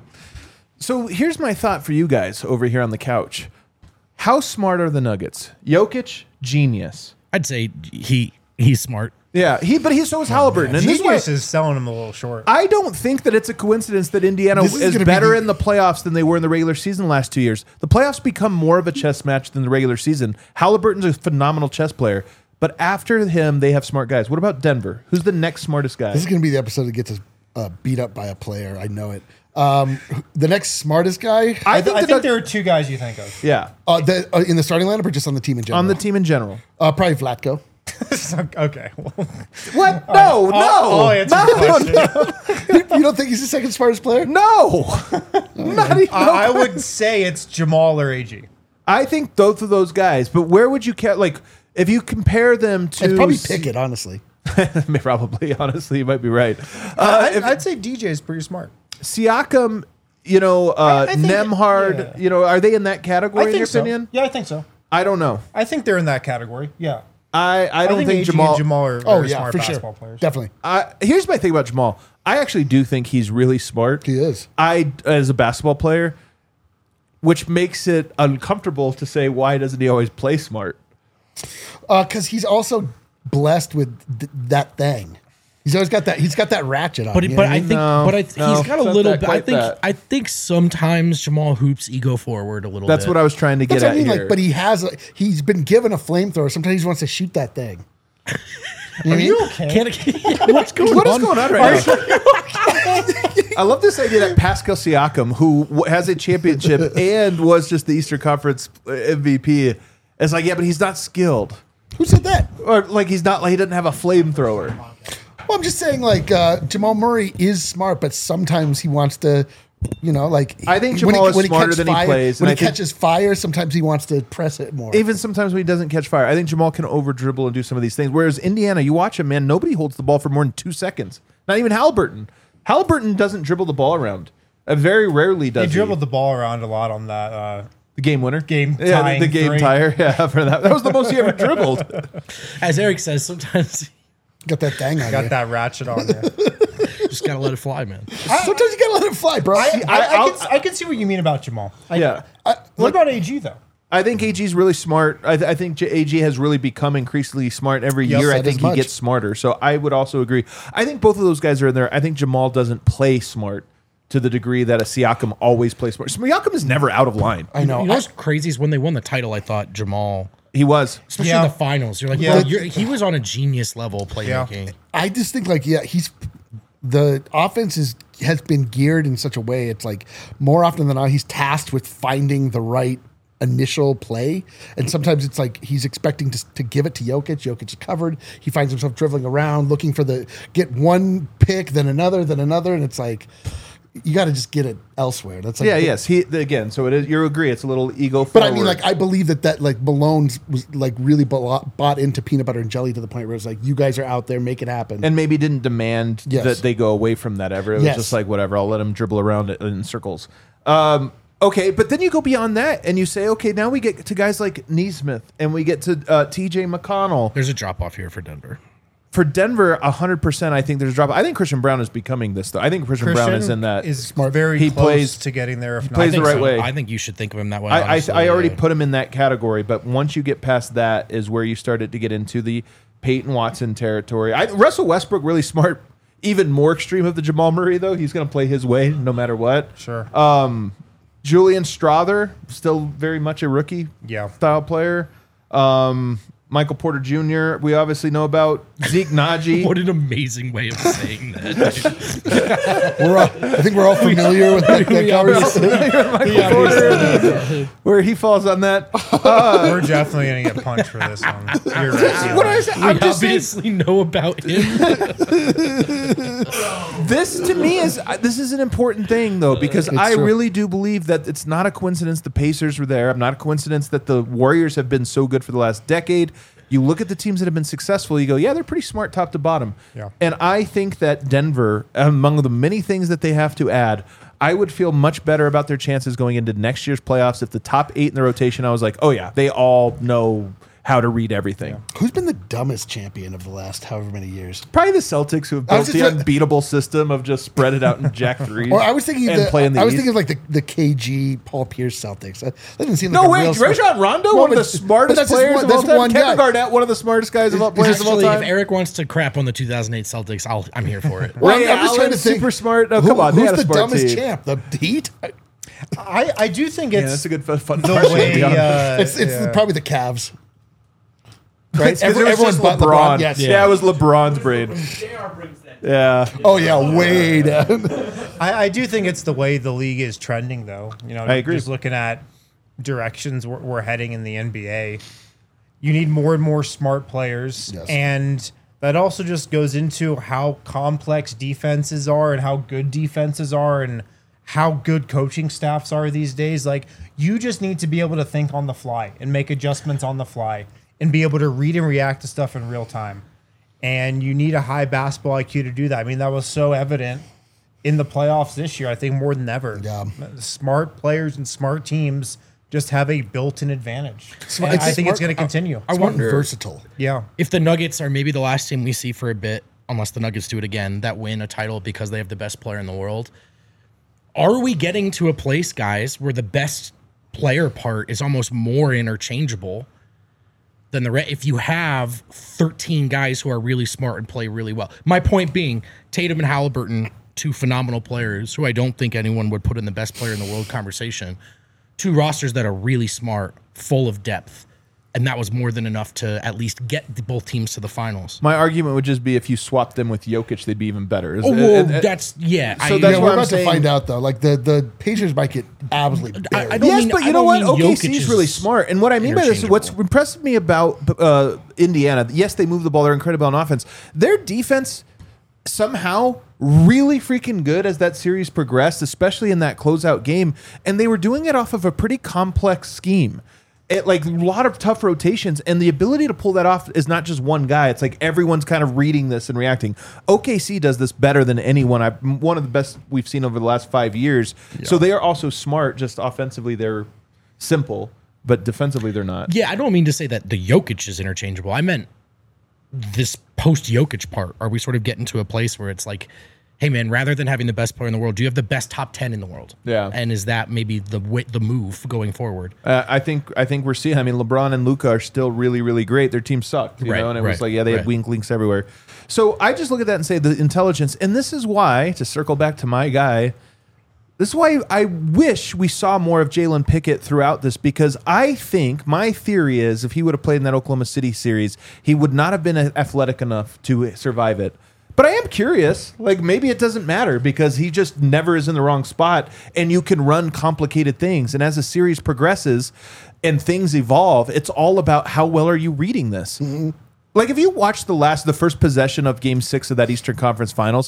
So here's my thought for you guys over here on the couch. How smart are the Nuggets? Jokic, genius. I'd say he he's smart. Yeah, he but he so is Halliburton. And this is why Genius is selling him a little short. I don't think that it's a coincidence that Indiana This is is, gonna be better the- in the playoffs than they were in the regular season the last two years. The playoffs become more of a chess match than the regular season. Halliburton's a phenomenal chess player, but after him, they have smart guys. What about Denver? Who's the next smartest guy? This is going to be the episode that gets us uh, beat up by a player. I know it. Um, the next smartest guy I, I th- think, I the think Nug- there are two guys you think of. yeah, uh, the, uh, in the starting lineup or just on the team in general? on the team in general. Uh, probably Vlatko. Okay. Well, What? No, no, I'll, I'll answer no, your question. You don't think he's the second smartest player? no. Not even. I, I would say it's Jamal or A G. I think both of those guys. But where would you ca- like if you compare them to? It's probably Pickett, honestly. Probably, honestly, you might be right. Uh, I, if I'd say D J is pretty smart. Siakam, you know, uh, I- I think- Nemhard, yeah. you know, are they in that category I in think your so. opinion? Yeah, I think so. I don't know. I think they're in that category. Yeah. I, I don't think, A G Jamal. and Jamal are Oh, very yeah, smart for basketball sure. players. Definitely. I, here's my thing about Jamal. I actually do think he's really smart. He is. I, as a basketball player, which makes it uncomfortable to say why doesn't he always play smart? Because Uh, he's also blessed with th- that thing. He's always got that. He's got that ratchet on. But you know but what I mean? think No, but I th- no, he's got a it's not little that bit. I quite think that. I think sometimes Jamal hoops ego forward a little That's bit. what I was trying to get That's what at I mean. here. Like, but he has. A, he's been given a flamethrower. Sometimes he wants to shoot that thing. Are you okay? Can't, what's going what on? is going on right now? I love this idea that Pascal Siakam, who w- has a championship and was just the Eastern Conference M V P, is like, yeah, but he's not skilled, Who said that? or like he's not like he doesn't have a flamethrower. Well, I'm just saying, like uh, Jamal Murray is smart, but sometimes he wants to, you know, like I think when Jamal is when smarter catches than he fire- plays, When and he I think- catches fire, sometimes he wants to press it more. Even sometimes when he doesn't catch fire, I think Jamal can over dribble and do some of these things. Whereas Indiana, you watch him, man, nobody holds the ball for more than two seconds. Not even Halliburton. Halliburton doesn't dribble the ball around. Uh, very rarely does They he. dribbled the ball around a lot on that. Uh, The game winner, Game yeah, the, tying the game three. tire, yeah, for that. That was the most he ever dribbled. As Eric says, sometimes got that thing on got you. that ratchet on there. you just gotta let it fly, man. Sometimes you gotta let it fly, bro. I, I, I, I'll- can, I can see what you mean about Jamal. I, Yeah, What about A G though? I think A G's really smart. I, th- I think J- A G has really become increasingly smart every Yes, year. I that think is he much. gets smarter. So I would also agree. I think both of those guys are in there. I think Jamal doesn't play smart to the degree that a Siakam always plays smart. Siakam is never out of line. I know. You know I- what's crazy is when they won the title, I thought Jamal, He was. especially Yeah. in the finals, you're like, Yeah. bro, you're, he was on a genius level playmaking. I just think like yeah, he's the offense is has been geared in such a way. It's like more often than not, he's tasked with finding the right initial play, and sometimes it's like he's expecting to, to give it to Jokic. Jokic is covered. He finds himself dribbling around, looking for the get one pick, then another, then another, and it's like you got to just get it elsewhere. That's like Yeah, yes. He again. So it is. You agree? It's a little ego. But I forward. mean, like, I believe that that like Malone's was like really bought, bought into peanut butter and jelly to the point where it's like, you guys are out there, make it happen. and maybe didn't demand Yes. that they go away from that ever. It was Yes. just like whatever. I'll let him dribble around it in circles. Um, okay, but then you go beyond that and you say, okay, now we get to guys like Neesmith and we get to uh, T J McConnell. There's a drop off here for Denver. For Denver, one hundred percent, I think there's a drop. I think Christian Brown is becoming this, though. I think Christian, Brown is in that. Is Smart. very He close plays- to getting there. If not, plays the think right so. way. I think you should think of him that way. I, I, honestly. I already Yeah. put him in that category, but once you get past that is where you started to get into the Peyton Watson territory. I, Russell Westbrook, really smart, even more extreme of the Jamal Murray, though. He's going to play his way no matter what. Sure. Um, Julian Strother, still very much a rookie Yeah. style player. Um, Michael Porter Junior We obviously know about Zeke Naji. What an amazing way of saying that. We're all, I think we're all familiar with that, that conversation. Michael Porter, where he falls on that. Uh, We're definitely gonna get punched for this one. You're right. what is it? I'm We just saying, obviously know about him. this to me is uh, this is an important thing though, because I true. really do believe that it's not a coincidence the Pacers were there. I'm not a coincidence that the Warriors have been so good for the last decade. You look at the teams that have been successful, you go, yeah, they're pretty smart top to bottom. Yeah. And I think that Denver, among the many things that they have to add, I would feel much better about their chances going into next year's playoffs if the top eight in the rotation, I was like, oh yeah, they all know how to read everything. Who's been the dumbest champion of the last however many years? Probably the Celtics, who have I was built the just- unbeatable system of just spread it out and jack threes. Or I was thinking, and the, play in the I was East. thinking of like the, the K G Paul Pierce Celtics. That doesn't seem like No a way, real smart- Rajon Rondo, Well, one of but- the smartest but that's just players one- of all that's time. one Kevin guy. Garnett, one of the smartest guys of all players of all Actually, if time. Eric wants to crap on the two thousand eight Celtics, I'll, I'm here for it. Well, Ray I'm just trying Allen, to think, super smart. Oh, who- come on, they who's had a the smart dumbest team. champ? The Heat? I, I do think Yeah, it's that's a good fun, fun the question, to way. be honest. Uh, It's it's yeah. probably the Cavs. Right? It's 'cause Every- it was everyone just but LeBron. LeBron. Yes. Yeah. it was LeBron's brain. Yeah. Oh yeah, way down. I, I do think it's the way the league is trending, though. You know, I agree. Just looking at directions we're, we're heading in the N B A, you need more and more smart players, Yes. and that also just goes into how complex defenses are and how good defenses are and how good coaching staffs are these days. Like, you just need to be able to think on the fly and make adjustments on the fly and be able to read and react to stuff in real time. And you need a high basketball I Q to do that. I mean, that was so evident in the playoffs this year, I think more than ever. Yeah. Smart players and smart teams just have a built-in advantage. Smart- And it's I think smart- it's going to continue. I Smart and wonder versatile. yeah. if the Nuggets are maybe the last team we see for a bit, unless the Nuggets do it again, that win a title because they have the best player in the world. Are we getting to a place, guys, where the best player part is almost more interchangeable than the rest? If you have thirteen guys who are really smart and play really well. My point being, Tatum and Halliburton, two phenomenal players who I don't think anyone would put in the best player in the world conversation. Two rosters that are really smart, full of depth, and that was more than enough to at least get the, both teams to the finals. My argument would just be if you swapped them with Jokic, they'd be even better. Is- Oh, well, and- and- that's yeah. so I, that's Yeah, what we're I'm about saying. to find out though. Like the, the Pacers might get absolutely I- buried. I don't yes, mean- but you I know don't what? mean O K C Jokic is is really smart. And what I mean by this, what's interchangeable. impressed me about uh, Indiana, yes, they move the ball. They're incredible on offense. Their defense somehow really freaking good as that series progressed, especially in that closeout game. And they were doing it off of a pretty complex scheme. It, like a lot of tough rotations, and the ability to pull that off is not just one guy. It's like everyone's kind of reading this and reacting. O K C does this better than anyone. I one of the best we've seen over the last five years. So they are also smart. Just offensively, they're simple, but defensively, they're not. yeah, I don't mean to say that the Jokic is interchangeable. I meant this post Jokic part. Are we sort of getting to a place where it's like, hey man, rather than having the best player in the world, do you have the best top ten in the world? Yeah. And is that maybe the wi- the move going forward? Uh, I think I think we're seeing. I mean, LeBron and Luka are still really, really great. Their team sucked, you Right, know, and it was right, like, yeah, they had right. wink links everywhere. So I just look at that and say the intelligence, and this is why, to circle back to my guy, this is why I wish we saw more of Jalen Pickett throughout this, because I think my theory is if he would have played in that Oklahoma City series, he would not have been athletic enough to survive it. But I am curious, like maybe it doesn't matter because he just never is in the wrong spot and you can run complicated things. And as the series progresses and things evolve, it's all about how well are you reading this? Like if you watch the last, the first possession of game six of that Eastern Conference Finals,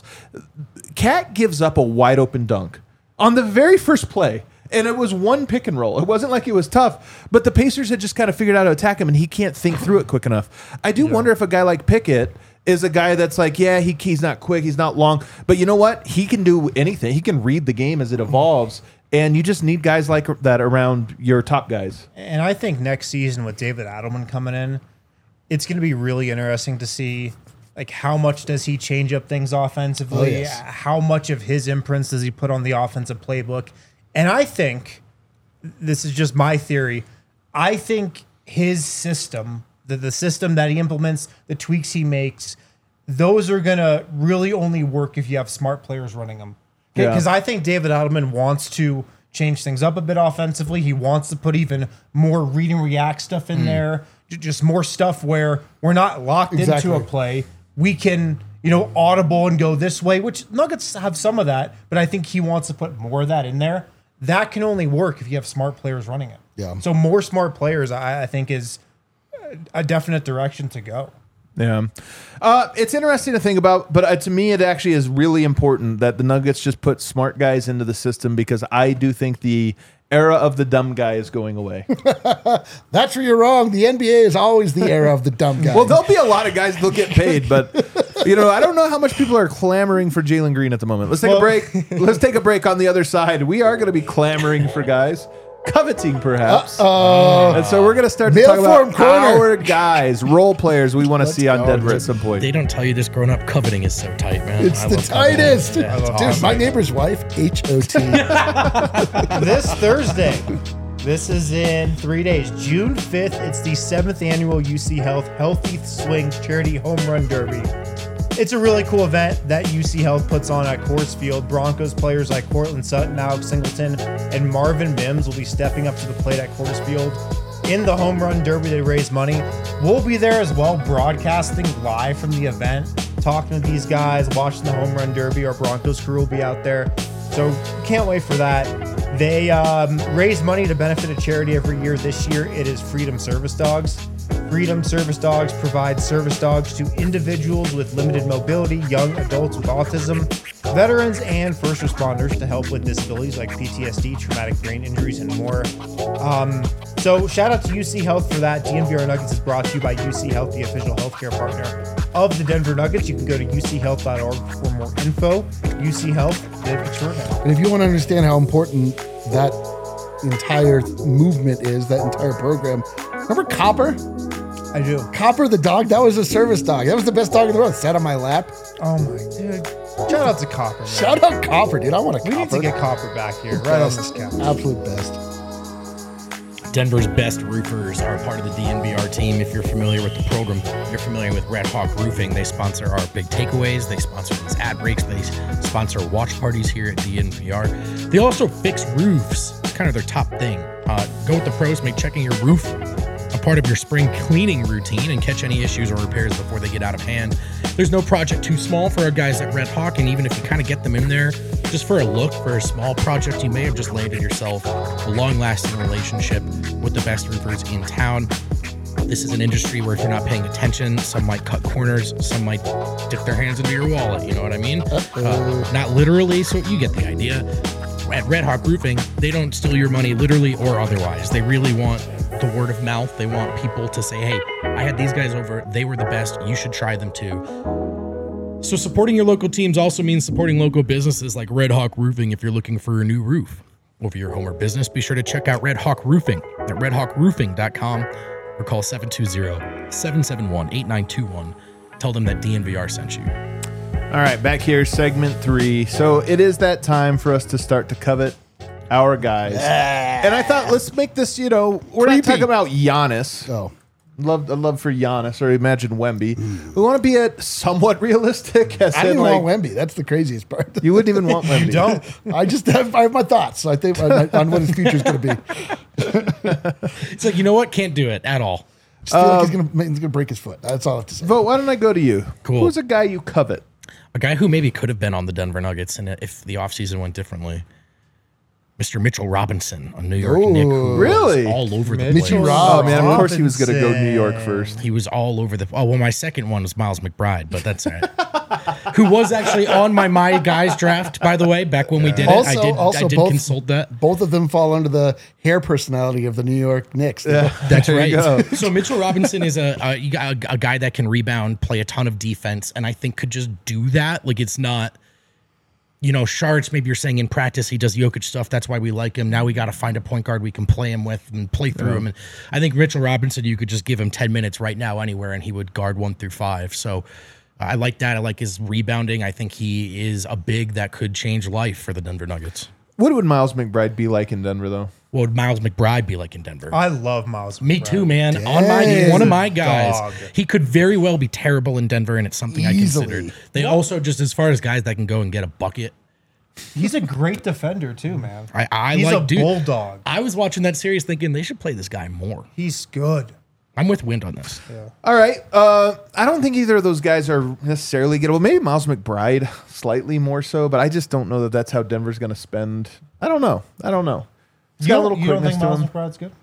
Cat gives up a wide open dunk on the very first play. And it was one pick and roll. It wasn't like it was tough, but the Pacers had just kind of figured out how to attack him and he can't think through it quick enough. I do wonder if a guy like Pickett is a guy that's like, yeah, he, he's not quick, he's not long, but you know what? He can do anything. He can read the game as it evolves, and you just need guys like that around your top guys. And I think next season with David Adelman coming in, it's going to be really interesting to see like how much does he change up things offensively? Oh, yes. How much of his imprints does he put on the offensive playbook? And I think, this is just my theory, I think his system, the, the system that he implements, the tweaks he makes, those are going to really only work if you have smart players running them. Yeah. Because I think David Adelman wants to change things up a bit offensively. He wants to put even more read and react stuff in there, J- just more stuff where we're not locked Exactly. into a play. We can, you know, audible and go this way, which Nuggets have some of that, but I think he wants to put more of that in there. That can only work if you have smart players running it. Yeah. So more smart players, I, I think, is a definite direction to go. Yeah. Uh, it's interesting to think about, but uh, to me, it actually is really important that the Nuggets just put smart guys into the system, because I do think the era of the dumb guy is going away. That's where you're wrong. The N B A is always the era of the dumb guy. Well, there'll be a lot of guys that'll get paid, but you know, I don't know how much people are clamoring for Jalen Green at the moment. Let's take Well- a break. Let's take a break on the other side. We are going to be clamoring for guys. Coveting, perhaps. Uh, And so we're going to start to Mail talk about form corner. our guys, role players we want to see on go. Denver at some point. They don't tell you this growing up. Coveting is so tight, man. it's I the love coveting. tightest. Yeah, it's Dude, awesome. my neighbor's wife, H O T. This Thursday, this is in three days, June fifth. It's the seventh annual U C Health Healthy Swings Charity Home Run Derby. It's a really cool event that U C Health puts on at Coors Field. Broncos players like Cortland Sutton, Alex Singleton, and Marvin Mims will be stepping up to the plate at Coors Field in the Home Run Derby to raise money. We'll be there as well, broadcasting live from the event, talking to these guys, watching the Home Run Derby. Our Broncos crew will be out there. So can't wait for that. They um, raise money to benefit a charity every year. This year it is Freedom Service Dogs. Freedom Service Dogs provides service dogs to individuals with limited mobility, young adults with autism, veterans, and first responders to help with disabilities like P T S D, traumatic brain injuries, and more. Um, so shout out to U C Health for that. D N V R Nuggets is brought to you by U C Health, the official healthcare partner of the Denver Nuggets. You can go to U C health dot org for more info. U C Health, live extraordinary. And if you want to understand how important that entire movement is, that entire program, remember Copper? I do. Copper the dog, that was a service dog. That was the best dog in the world. Sat on my lap. Oh my dude. Shout out to Copper, man. Shout out Copper, dude. I want a We Copper. need to get Copper back here, right on this Best. couch. Absolute best. Denver's best roofers are a part of the D N V R team. If you're familiar with the program, you're familiar with Red Hawk Roofing. They sponsor our big takeaways. They sponsor these ad breaks. They sponsor watch parties here at D N V R. They also fix roofs. It's kind of their top thing. Uh, go with the pros. Make checking your roof a part of your spring cleaning routine and catch any issues or repairs before they get out of hand. There's no project too small for our guys at Red Hawk, and even if you kind of get them in there just for a look, for a small project, you may have just landed yourself a long-lasting relationship with the best roofers in town. This is an industry where if you're not paying attention, some might cut corners, some might dip their hands into your wallet, you know what I mean? Uh, not literally, so you get the idea. At Red Hawk Roofing, they don't steal your money literally or otherwise. They really want the word of mouth. They want people to say, hey, I had these guys over. They were the best. You should try them too. So supporting your local teams also means supporting local businesses like Red Hawk Roofing if you're looking for a new roof. Or for your home or business, be sure to check out Red Hawk Roofing at red hawk roofing dot com or call seven two zero, seven seven one, eight nine two one. Tell them that D N V R sent you. All right, back here, segment three. So it is that time for us to start to covet our guys. And I thought, let's make this, you know, we're not Creepy. talking about Giannis. Oh. Love, a love for Giannis, or imagine Wemby. We want to be at somewhat realistic. As I didn't in, even like, want Wemby. That's the craziest part. you wouldn't even want Wemby. You don't. I just have, I have my thoughts. So I think on, on what his future is going to be. It's like, you know what? Can't do it at all. Just feel like he's going to he's going to break his foot. That's all I have to say. Vote, why don't I go to you? Cool. Who's a guy you covet? A guy who maybe could have been on the Denver Nuggets and if the offseason went differently. Mister Mitchell Robinson, a New York Knick who was Really? all over the Mitchell place. Rob- Oh, man, of course he was going to go Robinson. New York first. He was all over the. Oh, well, my second one was Miles McBride, but that's all right. Who was actually on my My Guys draft, by the way, back when we did it. Also, I did, also I did both, consult that. Both of them fall under the hair personality of the New York Knicks. Yeah. That's There right. you go. So Mitchell Robinson is a, a you got a a guy that can rebound, play a ton of defense, and I think could just do that. Like it's not, you know, Shards. Maybe you're saying in practice he does Jokic stuff. That's why we like him. Now we got to find a point guard we can play him with and play through him. And I think Mitchell Robinson, you could just give him ten minutes right now anywhere, and he would guard one through five. So. I like that. I like his rebounding. I think he is a big that could change life for the Denver Nuggets. What would Miles McBride be like in Denver, though? What would Miles McBride be like in Denver? I love Miles. Me McBride. too, man. On my Dang. one of my guys, Dog. he could very well be terrible in Denver, and it's something I Easily. considered. They also just as far as guys that can go and get a bucket He's a great defender too, man. I, I He's like a dude, bulldog. I was watching that series thinking they should play this guy more. He's good. I'm with Wind on this. All right. Uh, I don't think either of those guys are necessarily gettable. Maybe Miles McBride slightly more so, but I just don't know that that's how Denver's going to spend. I don't know. I don't know. He's You got a don't, little you don't quickness think to Miles him. McBride's good?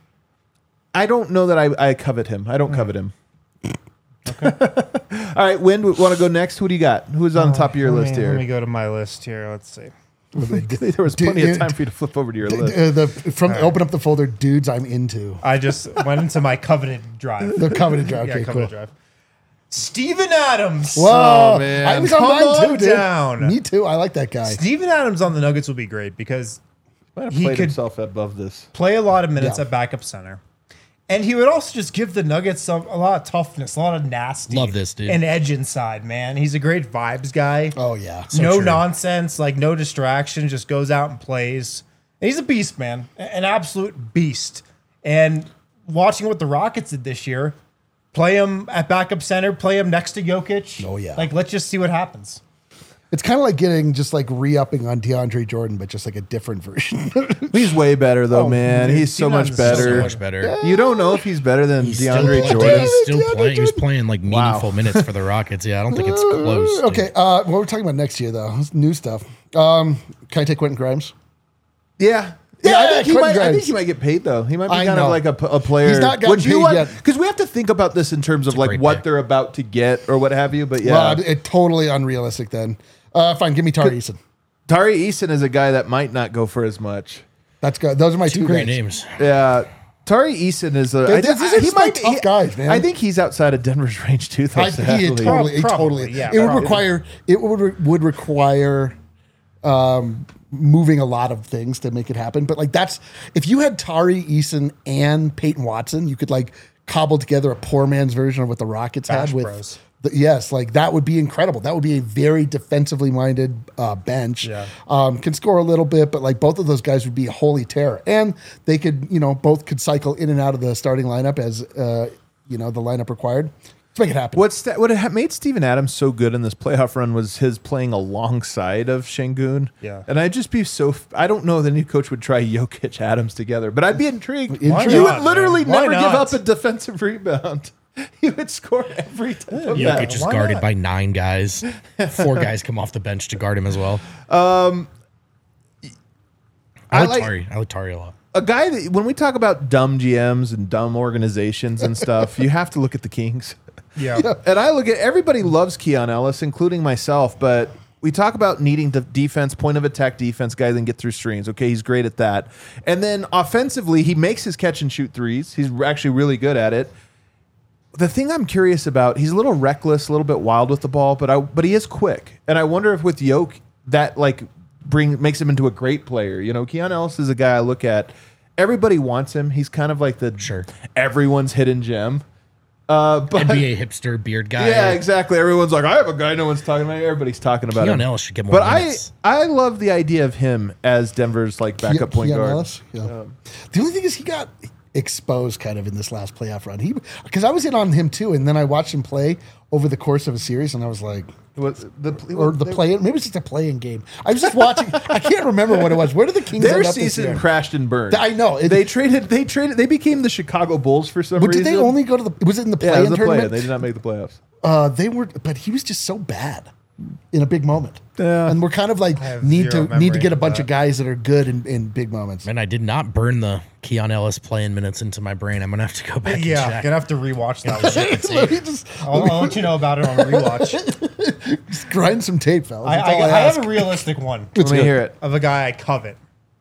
I don't know that I, I covet him. I don't covet him. Okay. All right, Wind, want to go next? Who do you got? Who's on the top of your Let list me, here? Let me go to my list here. Let's see. There was Dude, plenty of dude, time for you to flip over to your list. Uh, the from open up the folder, dudes I'm into. I just went into my coveted drive. The coveted drive. yeah, Okay, coveted cool. drive. Steven Adams. Whoa, Oh, man. I was on Come mine on too, dude. down. Me too. I like that guy. Steven Adams on the Nuggets will be great because Might have he played could- himself above this. play a lot of minutes Yeah. at backup center. And he would also just give the Nuggets some, a lot of toughness, a lot of nasty. Love this, dude. And edge inside, man. He's a great vibes guy. Oh yeah. no true. nonsense, like no distraction, just goes out and plays. And he's a beast, man. A- An absolute beast. And watching what the Rockets did this year, play him at backup center, play him next to Jokic. Oh, yeah. Like, let's just see what happens. It's kind of like getting just like re-upping on DeAndre Jordan, but just like a different version. He's way better, though, Oh, man. dude, He's so Steven much Adams is so better. So much better. You don't know if he's better than He's still DeAndre playing- Jordan. He's still DeAndre playing. He was Jordan. playing like meaningful minutes for the Rockets. Yeah, I don't think it's close. dude. okay, uh, what we're talking about next year though, is new stuff. Um, can I take Quentin Grimes? Yeah. Yeah, Yeah, I think, he Quentin might, I think Grimes. he might get paid though. He might be I kind know. of like a, p- a player. He's not gotten Would you paid want- yet. Because we have to think about this in terms of a like great what pick. they're about to get or what have you. But yeah, Well, it, totally unrealistic then. Uh, fine, give me Tari Eason. Tari Eason is a guy that might not go for as much. That's good. Those are my two, Two great names. names. Yeah. Tari Eason is a. Dude, I this- think- these are he just my might tough he- guys, man. I think he's outside of Denver's range too. Though, I, he sadly. totally, he Probably, totally. yeah, it would probably. require. It would would require um, moving a lot of things to make it happen. But like that's if you had Tari Eason and Peyton Watson, you could like cobble together a poor man's version of what the Rockets Bash had with. Bros. The, yes, like that would be incredible. That would be a very defensively minded uh, bench. Yeah. Um, can score a little bit, but like both of those guys would be a holy terror, and they could, you know, both could cycle in and out of the starting lineup as uh, you know the lineup required. Let's make it happen. What's that? What ha- made Steven Adams so good in this playoff run was his playing alongside of Şengün. Yeah. and I'd just be so. F- I don't know that any coach would try Jokic Adams together, but I'd be intrigued. Why You not, would literally man? Why never give not? up a defensive rebound. He would score every time. of that. Jokic is why guarded not? by nine guys. Four guys come off the bench to guard him as well. I I like, like- Tari. I like Tari a lot. A guy that when we talk about dumb G Ms and dumb organizations and stuff, you have to look at the Kings. Yeah. And I look at everybody loves Keon Ellis, including myself, but we talk about needing the defense, point of attack defense, guy that can get through screens. Okay, he's great at that. And then offensively, he makes his catch and shoot threes. He's actually really good at it. The thing I'm curious about, he's a little reckless, a little bit wild with the ball, but I but he is quick. And I wonder if with Yoke that like bring makes him into a great player. You know, Keon Ellis is a guy I look at. Everybody wants him. He's kind of like the Sure. everyone's hidden gem. Uh, but N B A hipster beard guy. yeah, exactly. Everyone's like, I have a guy no one's talking about. Everybody's talking about Keon him. Ellis should get more But I, minutes. I love the idea of him as Denver's like backup point Keon guard. Ellis? Yeah. The only thing is he got exposed kind of in this last playoff run. He because I was in on him too, and then I watched him play over the course of a series, and I was like, What, the, or the they- play. Maybe it's just a playing game. I was just watching. I can't remember what it was. Where did the Kings Their end up this season year? crashed and burned. I know. It- they traded. They traded. They became the Chicago Bulls for some But reason. did they only go to the? Was it in the Yeah, it play-in was the play. tournament? They did not make the playoffs. Uh, they were, but he was just so bad in a big moment. Yeah. And we're kind of like have need to zero need to memory get a of bunch that. of guys that are good in, in big moments. Man, I did not burn the Keon Ellis playing minutes into my brain. I'm gonna have to go back and Yeah. check. Gonna have to rewatch that one. Let me just, I'll, I'll let you know about it on rewatch. just grind some tape, fellas. I, That's I, all I ask. have a realistic one Let me hear it. of a guy I covet.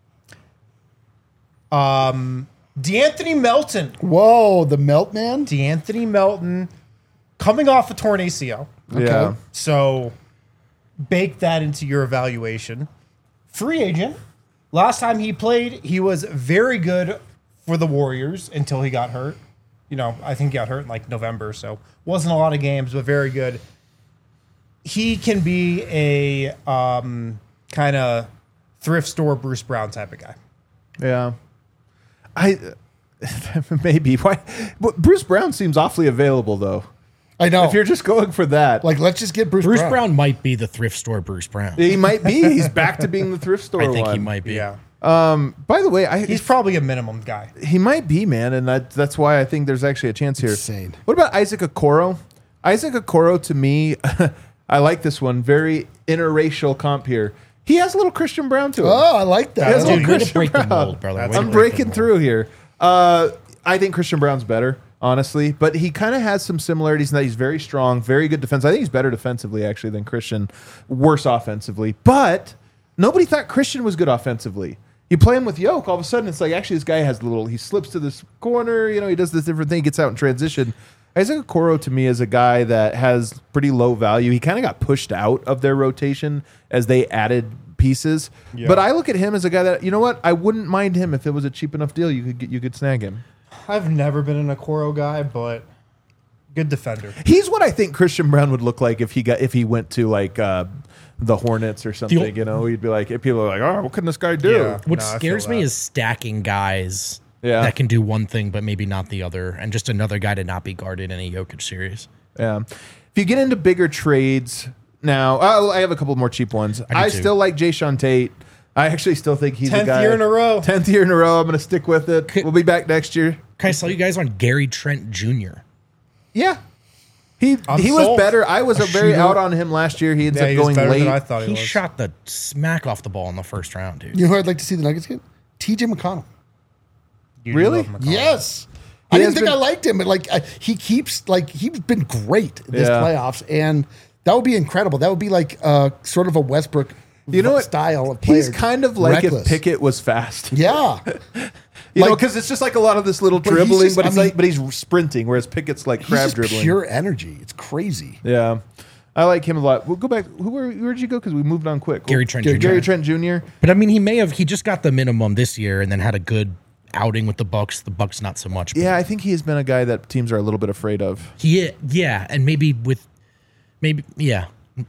Um, DeAnthony Melton. Whoa, the Melt Man. DeAnthony Melton coming off a torn A C L. Yeah. So bake that into your evaluation. Free agent. Last time he played, he was very good for the Warriors until he got hurt. You know, I think he got hurt in like November, so wasn't a lot of games, but very good. He can be a um, kind of thrift store Bruce Brown type of guy. Yeah. I maybe why. But Bruce Brown seems awfully available though. I know. If you're just going for that, Like, let's just get Bruce, Bruce Brown. Brown might be the thrift store Bruce Brown. he might be. He's back to being the thrift store I think one. he might be. Yeah. By the way, I, He's probably a minimum guy. he might be, man, and that, that's why I think there's actually a chance here. Insane. What about Isaac Okoro? Isaac Okoro, to me, I like this one. Very interracial comp here. He has a little Christian Brown to him. Oh, I like that. Has a Dude, little way to Christian break the Brown. mold, brother. That's Way to I'm break the breaking mold. through here. Uh, I think Christian Brown's better, honestly, but he kind of has some similarities in that he's very strong, very good defense. I think he's better defensively, actually, than Christian. Worse offensively. But nobody thought Christian was good offensively. You play him with Yoke, all of a sudden it's like, actually, this guy has a little, he slips to this corner, you know, he does this different thing, he gets out in transition. Isaac Okoro, to me, is a guy that has pretty low value. He kind of got pushed out of their rotation as they added pieces. Yeah. But I look at him as a guy that, you know what, I wouldn't mind him if it was a cheap enough deal. You could get, you could snag him. I've never been an Okoro guy, but good defender. He's what I think Christian Brown would look like if he got if he went to like uh, the Hornets or something. The- you know, he'd be like, if people are like, oh, what can this guy do? Yeah. What No, I scares feel me that. is stacking guys Yeah. that can do one thing but maybe not the other, and just another guy to not be guarded in a Jokic series. Yeah. If you get into bigger trades now, oh, I have a couple more cheap ones. I, I do too. still like Jay Sean Tate. I actually still think he's a Tenth guy. year in a row. Tenth year in a row. I'm going to stick with it. We'll be back next year. Can I sell you guys on Gary Trent Junior? Yeah. He I'm he was sold. better. I was A a very shooter. out on him last year. He ends Yeah, up he was going better late. than I thought he, He was. shot the smack off the ball in the first round, dude. You know who I'd like to see the Nuggets get? T J McConnell. You do Really? love McConnell. Yes. He I has didn't think been- I liked him, but like I, he keeps like he's been great this Yeah. playoffs, and that would be incredible. That would be like uh, sort of a Westbrook You know what? style of player. He's kind of like Reckless. if Pickett was fast. Yeah. You know, Like- because it's just like a lot of this little But he's dribbling, just- but I it's mean- like, but he's sprinting, whereas Pickett's like He's crab just dribbling. pure energy. It's crazy. Yeah, I like him a lot. We'll go back. Who where, where'd you go? Because we moved on quick. Gary Trent Gary, Junior Gary Trent Junior But I mean, he may have. He just got the minimum this year, and then had a good outing with the Bucks. The Bucks not so much. but Yeah, I think he has been a guy that teams are a little bit afraid of. He, yeah, and maybe with, maybe yeah,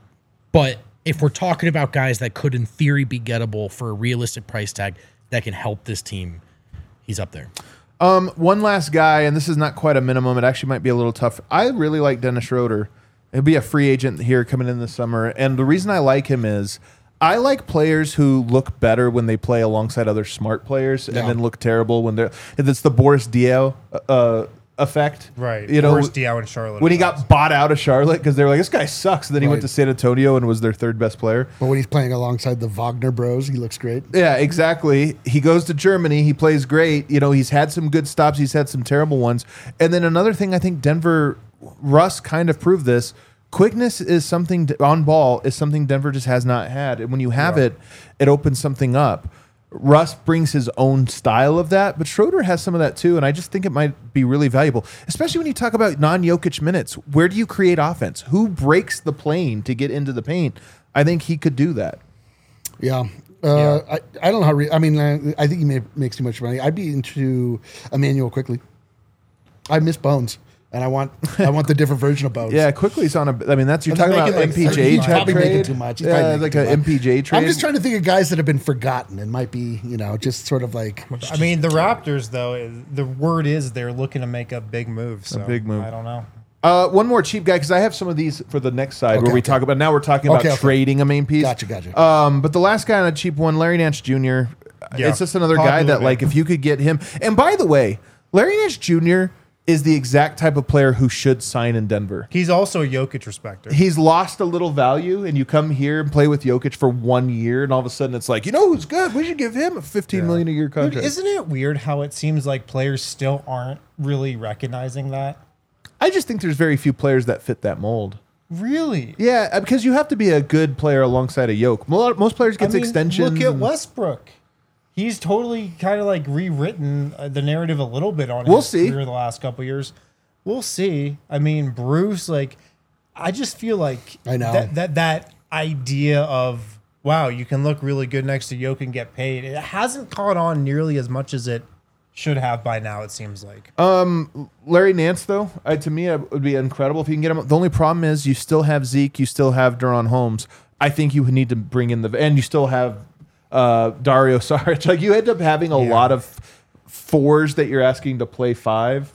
but if we're talking about guys that could, in theory, be gettable for a realistic price tag that can help this team, he's up there. Um, one last guy, and this is not quite a minimum. It actually might be a little tough. I really like Dennis Schroeder. He'll be a free agent here coming in this summer, and the reason I like him is I like players who look better when they play alongside other smart players, Yeah. and then look terrible when they're. It's the Boris Diaw uh, effect, Right. You know, Boris Diaw in Charlotte. when he got bought out of Charlotte because they were like, this guy sucks. And then he went Right. to San Antonio and was their third best player. But when he's playing alongside the Wagner Bros, he looks great. Yeah, exactly. He goes to Germany. He plays great. You know, he's had some good stops. He's had some terrible ones. And then another thing, I think Denver, Russ kind of proved this. Quickness is something on ball is something Denver just has not had. And when you have Yeah. it, it opens something up. Russ brings his own style of that, but Schroeder has some of that too, and I just think it might be really valuable, especially when you talk about non-Jokic minutes. Where do you create offense? Who breaks the plane to get into the paint? I think he could do that. Yeah. Uh, Yeah. I, I don't know how. Re- I mean, uh, I think he may, makes too much money. I'd be into Emmanuel quickly. I miss Bones, and I want I want the different version of Bones. Yeah, quickly's on a. I mean, that's you're I'm talking about making like M P J he's probably making trade. too much. He's Yeah, probably like making an too much. M P J trade. I'm just trying to think of guys that have been forgotten and might be, you know, just sort of like. I mean, the Raptors, though, the word is they're looking to make a big move. So big move. I don't know. Uh, one more cheap guy because I have some of these for the next side Okay, where we okay. talk about. Now we're talking about Okay, okay. trading a main piece. Gotcha, gotcha. Um, but the last guy on a cheap one, Larry Nance Junior Yeah. It's just another guy Popular that, like, man. if you could get him. And by the way, Larry Nance Junior is the exact type of player who should sign in Denver. He's also a Jokic respecter. He's lost a little value, and you come here and play with Jokic for one year, and all of a sudden it's like, you know who's good? We should give him a fifteen million a year Dude, contract. isn't it weird how it seems like players still aren't really recognizing that? I just think there's very few players that fit that mold. Really? Yeah, uh, because you have to be a good player alongside a yoke. Mo- Most players get I mean, extensions. Look at and- Westbrook. He's totally kind of like rewritten uh, the narrative a little bit on We'll his see. career the last couple of years. We'll see. I mean, Bruce, like, I just feel like I know. that that that idea of wow, you can look really good next to Jokic and get paid. It hasn't caught on nearly as much as it should have by now. It seems like. Larry Nance, though, I, to me, it would be incredible if you can get him. The only problem is you still have Zeke, you still have Duron Holmes. I think you need to bring in the and you still have uh, Dario Saric. Like you end up having a Yeah. lot of fours that you're asking to play five.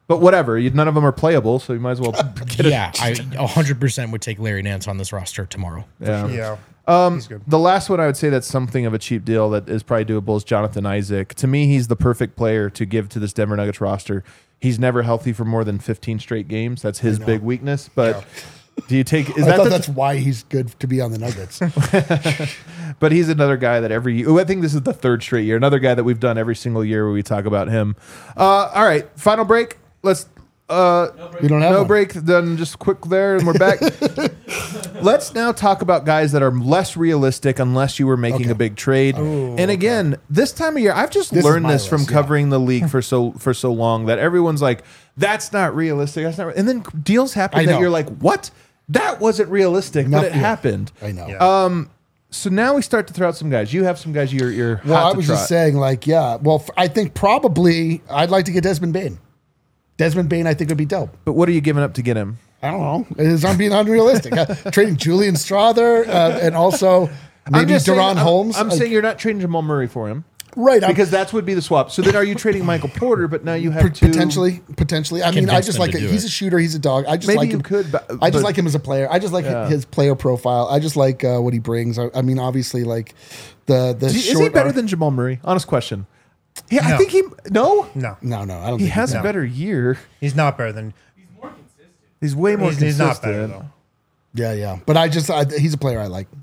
But whatever, you, none of them are playable, so you might as well get Yeah, I one hundred percent would take Larry Nance on this roster tomorrow. it. Yeah. Yeah. Um, He's good. the last one I would say that's something of a cheap deal that is probably doable is Jonathan Isaac. To me, he's the perfect player to give to this Denver Nuggets roster. He's never healthy for more than fifteen straight games. That's his big weakness. But do you take? Is I that thought the, that's why he's good to be on the Nuggets. But he's another guy that every year, I think this is the third straight year, another guy that we've done every single year where we talk about him. Uh, all right, final break. Let's. Uh, We don't have no one. break. Then just quick there, and we're back. Let's now talk about guys that are less realistic unless you were making Okay. a big trade. and again, this time of year, I've just This is learned my this from list, yeah. covering the league for so for so long that everyone's like, "That's not realistic." That's not. Re-. And then deals happen I that know. you're like, "What? That wasn't realistic, but Nothing- it happened." I know. Yeah. So now we start to throw out some guys. You have some guys you're you're Well, hot I to was trot. just saying, like, yeah. Well, f- I think probably I'd like to get Desmond Bain. Desmond Bain, I think would be dope. But what are you giving up to get him? I don't know. It's I'm being unrealistic. Uh, trading Julian Strother uh, and also maybe just saying- Deron I'm- Holmes. I'm, Like, saying you're not trading Jamal Murray for him. right I'm- Because that would be the swap. So then, are you trading Michael Porter? But now you have to potentially, potentially. I mean, I Convince just them like to it. do He's it. a shooter. He's a dog. I just Maybe like you him. could, but- I just but- like him as a player. I just like Yeah. his player profile. I just like uh, what he brings. I, I mean, obviously, like the the Is he short better arc- than Jamal Murray? Honest question. Yeah, I No. think he. No, No, No, no, I don't. he think has he's- a better year. he's not better than. He's way more He's, he's consistent. not better though. Yeah, yeah. But I just, I, he's a player I like.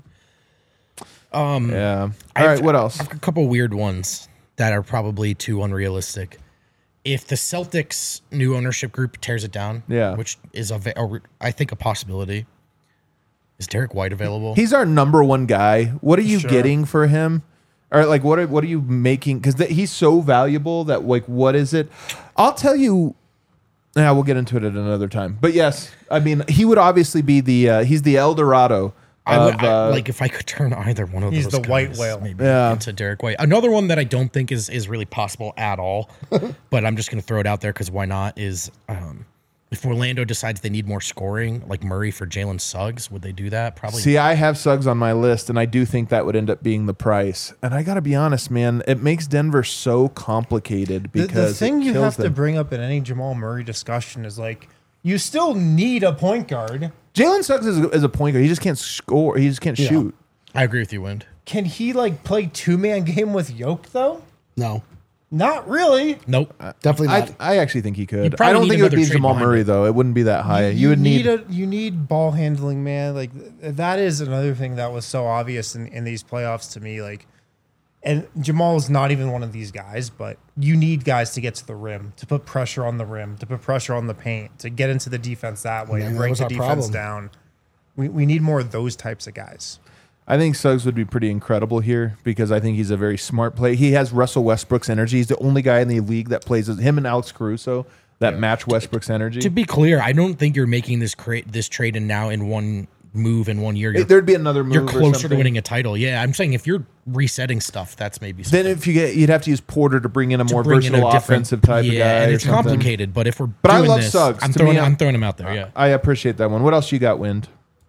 Yeah. All right. What else? I've got a couple weird ones that are probably too unrealistic. If the Celtics new ownership group tears it down, Yeah. which is a, ve- a I think a possibility. Is Derek White available? He's our number one guy. What are you Sure. getting for him? Or like, what are what are you making? Because he's so valuable that like, what is it? I'll tell you. Yeah, we'll get into it at another time. But yes, I mean, he would obviously be the uh, he's the El Dorado. I would of, I- uh, like if I could turn either one of He's those the white guys whale. maybe Yeah. into Derek White. Another one that I don't think is is really possible at all, but I'm just going to throw it out there because why not? Is um, if Orlando decides they need more scoring, like Murray for Jalen Suggs, would they do that? Probably. See, I have Suggs on my list, and I do think that would end up being the price. And I got to be honest, man, it makes Denver so complicated The, because the thing it you kills have to them. bring up in any Jamal Murray discussion is like you still need a point guard. Jalen Suggs is, is a point guard. He just can't score. He just can't Yeah. shoot. I agree with you, Wind. Can he like play two man game with Yoke though? No, Not really. Nope. definitely I, not. I actually think he could. You'd probably I don't need think it would another be trade Jamal behind Murray it. though. It wouldn't be that high. You, would need. a you need ball handling, man. Like th- that is another thing that was so obvious in, in these playoffs to me. Like, and Jamal is not even one of these guys, but you need guys to get to the rim, to put pressure on the rim, to put pressure on the paint, to get into the defense that way, Yeah, and that break was the our defense problem. down. We we need more of those types of guys. I think Suggs would be pretty incredible here because I think he's a very smart player. He has Russell Westbrook's energy. He's the only guy in the league that plays as him and Alex Caruso that match Westbrook's energy. To be clear, I don't think you're making this cra- this trade in now in one move in one year. You're, There'd be another move. you're or closer to something. winning a title. Yeah, I'm saying if you're resetting stuff, that's maybe Then if you get, you'd have to use Porter to bring in a to more bring in versatile a different- offensive type yeah, of guy. and or it's something. complicated. But if we're But I doing love this, Suggs. I'm To throwing me, I'm I'm- throwing him out there. Yeah. I appreciate that one. What else you got, Wind?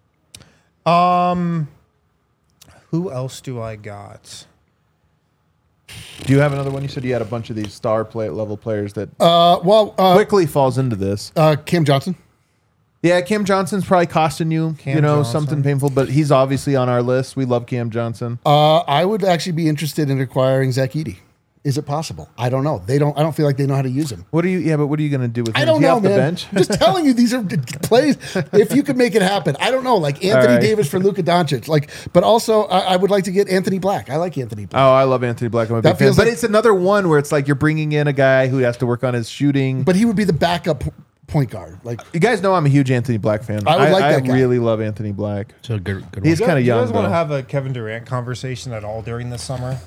Um, who else do I got? Do you have another one? You said you had a bunch of these star play level players that uh, well, uh, quickly falls into this. uh, Cam Johnson. Yeah, Cam Johnson's probably costing you, Cam you know, Johnson. something painful, but he's obviously on our list. We love Cam Johnson. Uh, I would actually be interested in acquiring Zach Edey. Is it possible? I don't know. They don't. I don't feel like they know how to use him. What are you? Yeah, but what are you going to do with him? I don't Is he know, off the man. bench? I'm just telling you, these are plays. If you could make it happen, I don't know. Like Anthony right. Davis for Luka Doncic. Like, but also I, I would like to get Anthony Black. I like Anthony Black. Oh, I love Anthony Black. I'm a That big fan. feels But like- it's another one where it's like you're bringing in a guy who has to work on his shooting. But he would be the backup p- point guard. Like, you guys know I'm a huge Anthony Black fan. I would like that I guy. really love Anthony Black. So good. Good He's one. kind of Do you young. guys want to though. have a Kevin Durant conversation at all during the summer?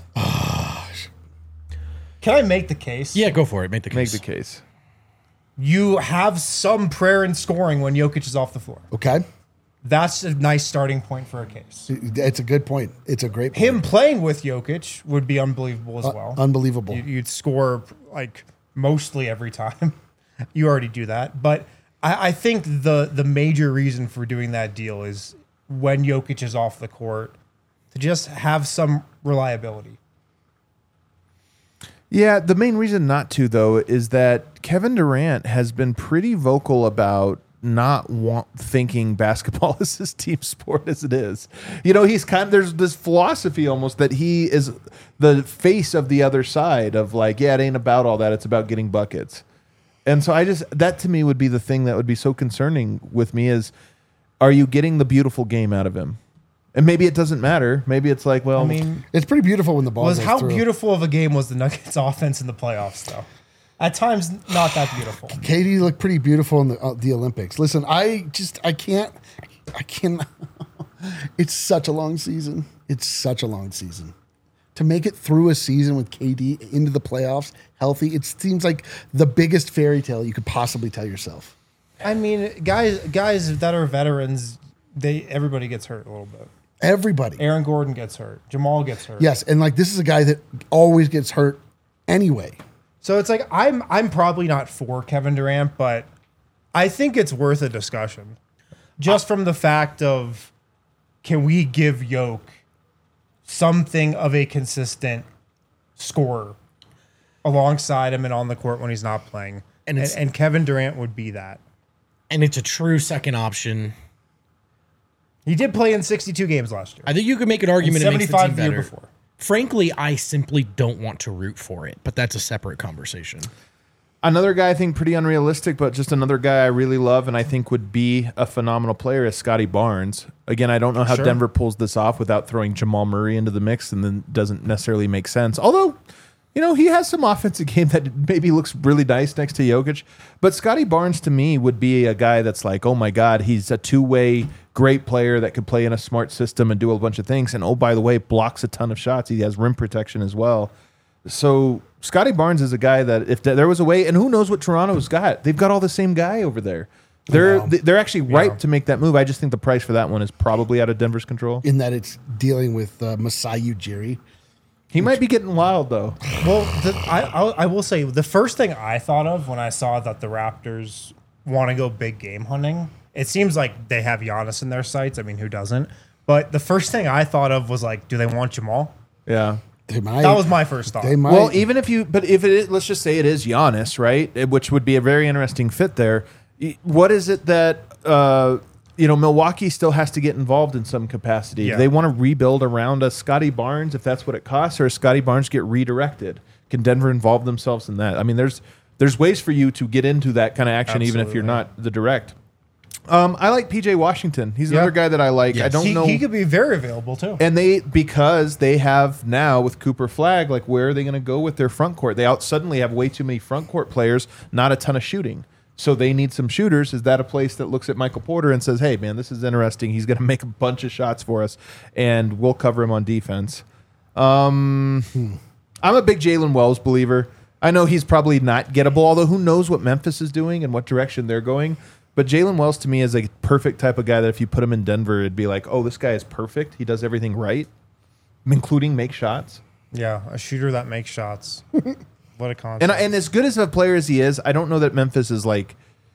Can I make the case? Yeah, go for it. Make the Make case. the case. You have some prayer in scoring when Jokic is off the floor. okay, That's a nice starting point for a case. it's a good point. It's a great point. Him playing with Jokic would be unbelievable as Uh, well. unbelievable. You- You'd score like mostly every time. You already do that, but I, I think the the major reason for doing that deal is when Jokic is off the court to just have some reliability. Yeah, the main reason not to, though, is that Kevin Durant has been pretty vocal about not want, thinking basketball is his team sport as it is. You know, he's kind of, there's this philosophy almost that he is the face of the other side of like, yeah, it ain't about all that. It's about getting buckets. And so I just, that to me would be the thing that would be so concerning with me is, are you getting the beautiful game out of him? And maybe it doesn't matter. Maybe it's like, well, I mean, It's pretty beautiful when the ball was goes how through. beautiful of a game was the Nuggets offense in the playoffs, though? At times, not that beautiful. K D looked pretty beautiful in the, uh, the Olympics. Listen, I just, I can't, I can. It's such a long season. It's such a long season. To make it through a season with K D into the playoffs healthy, it seems like the biggest fairy tale you could possibly tell yourself. I mean, guys, guys that are veterans, they everybody gets hurt a little bit. Everybody. Aaron Gordon gets hurt. Jamal gets hurt. Yes, and like this is a guy that always gets hurt anyway. So it's like I'm I'm probably not for Kevin Durant, but I think it's worth a discussion. Just from the fact of, can we give Yoke something of a consistent scorer alongside him and on the court when he's not playing? And And, it's- and, Kevin Durant would be that. And it's a true second option. He did play in sixty-two games last year. I think you could make an argument And it makes the seventy-five team the year better. before. Frankly, I simply don't want to root for it, but that's a separate conversation. another guy I think pretty unrealistic, but just another guy I really love and I think would be a phenomenal player is Scotty Barnes. Again, I don't know how Sure. Denver pulls this off without throwing Jamal Murray into the mix, and then doesn't necessarily make sense. Although, you know, he has some offensive game that maybe looks really nice next to Jokic. But Scotty Barnes to me would be a guy that's like, oh my God, he's a two-way great player that could play in a smart system and do a bunch of things. And oh, by the way, blocks a ton of shots. He has rim protection as well. So Scotty Barnes is a guy that if there was a way, and who knows what Toronto's got? They've got all the same guy over there. They're they're actually ripe to make that move. I just think the price for that one is probably out of Denver's control. In that it's dealing with uh, Masai Ujiri. He might be getting wild though. Well, the, I, I I will say the first thing I thought of when I saw that the Raptors want to go big game hunting, it seems like they have Giannis in their sights. I mean, who doesn't? But the first thing I thought of was like, do they want Jamal? Yeah. They might. That was my first thought. They might. Well, even if you, but if it is, let's just say it is Giannis, right? It- Which would be a very interesting fit there. Y- What is it that, uh, you know, Milwaukee still has to get involved in some capacity? Yeah. They want to rebuild around a Scotty Barnes if that's what it costs, or does Scotty Barnes get redirected? Can Denver involve themselves in that? I mean, there's there's ways for you to get into that kind of action, even if you're Absolutely. not the direct. Um, I like P J Washington. He's Yeah. another guy that I like. I Yes. don't he, know. he could be very available too. And they, because they have now with Cooper Flag, like where are they going to go with their front court? They out suddenly have way too many front court players, not a ton of shooting. So they need some shooters. Is that a place that looks at Michael Porter and says, hey, man, this is interesting. He's going to make a bunch of shots for us, and we'll cover him on defense. Um, I'm a big Jalen Wells believer. I know he's probably not gettable, although who knows what Memphis is doing and what direction they're going. But Jalen Wells to me is a perfect type of guy that if you put him in Denver, it'd be like, oh, this guy is perfect. He does everything right, including make shots. Yeah, a shooter that makes shots. What a concept. And and as good as a player as he is, I don't know that Memphis is like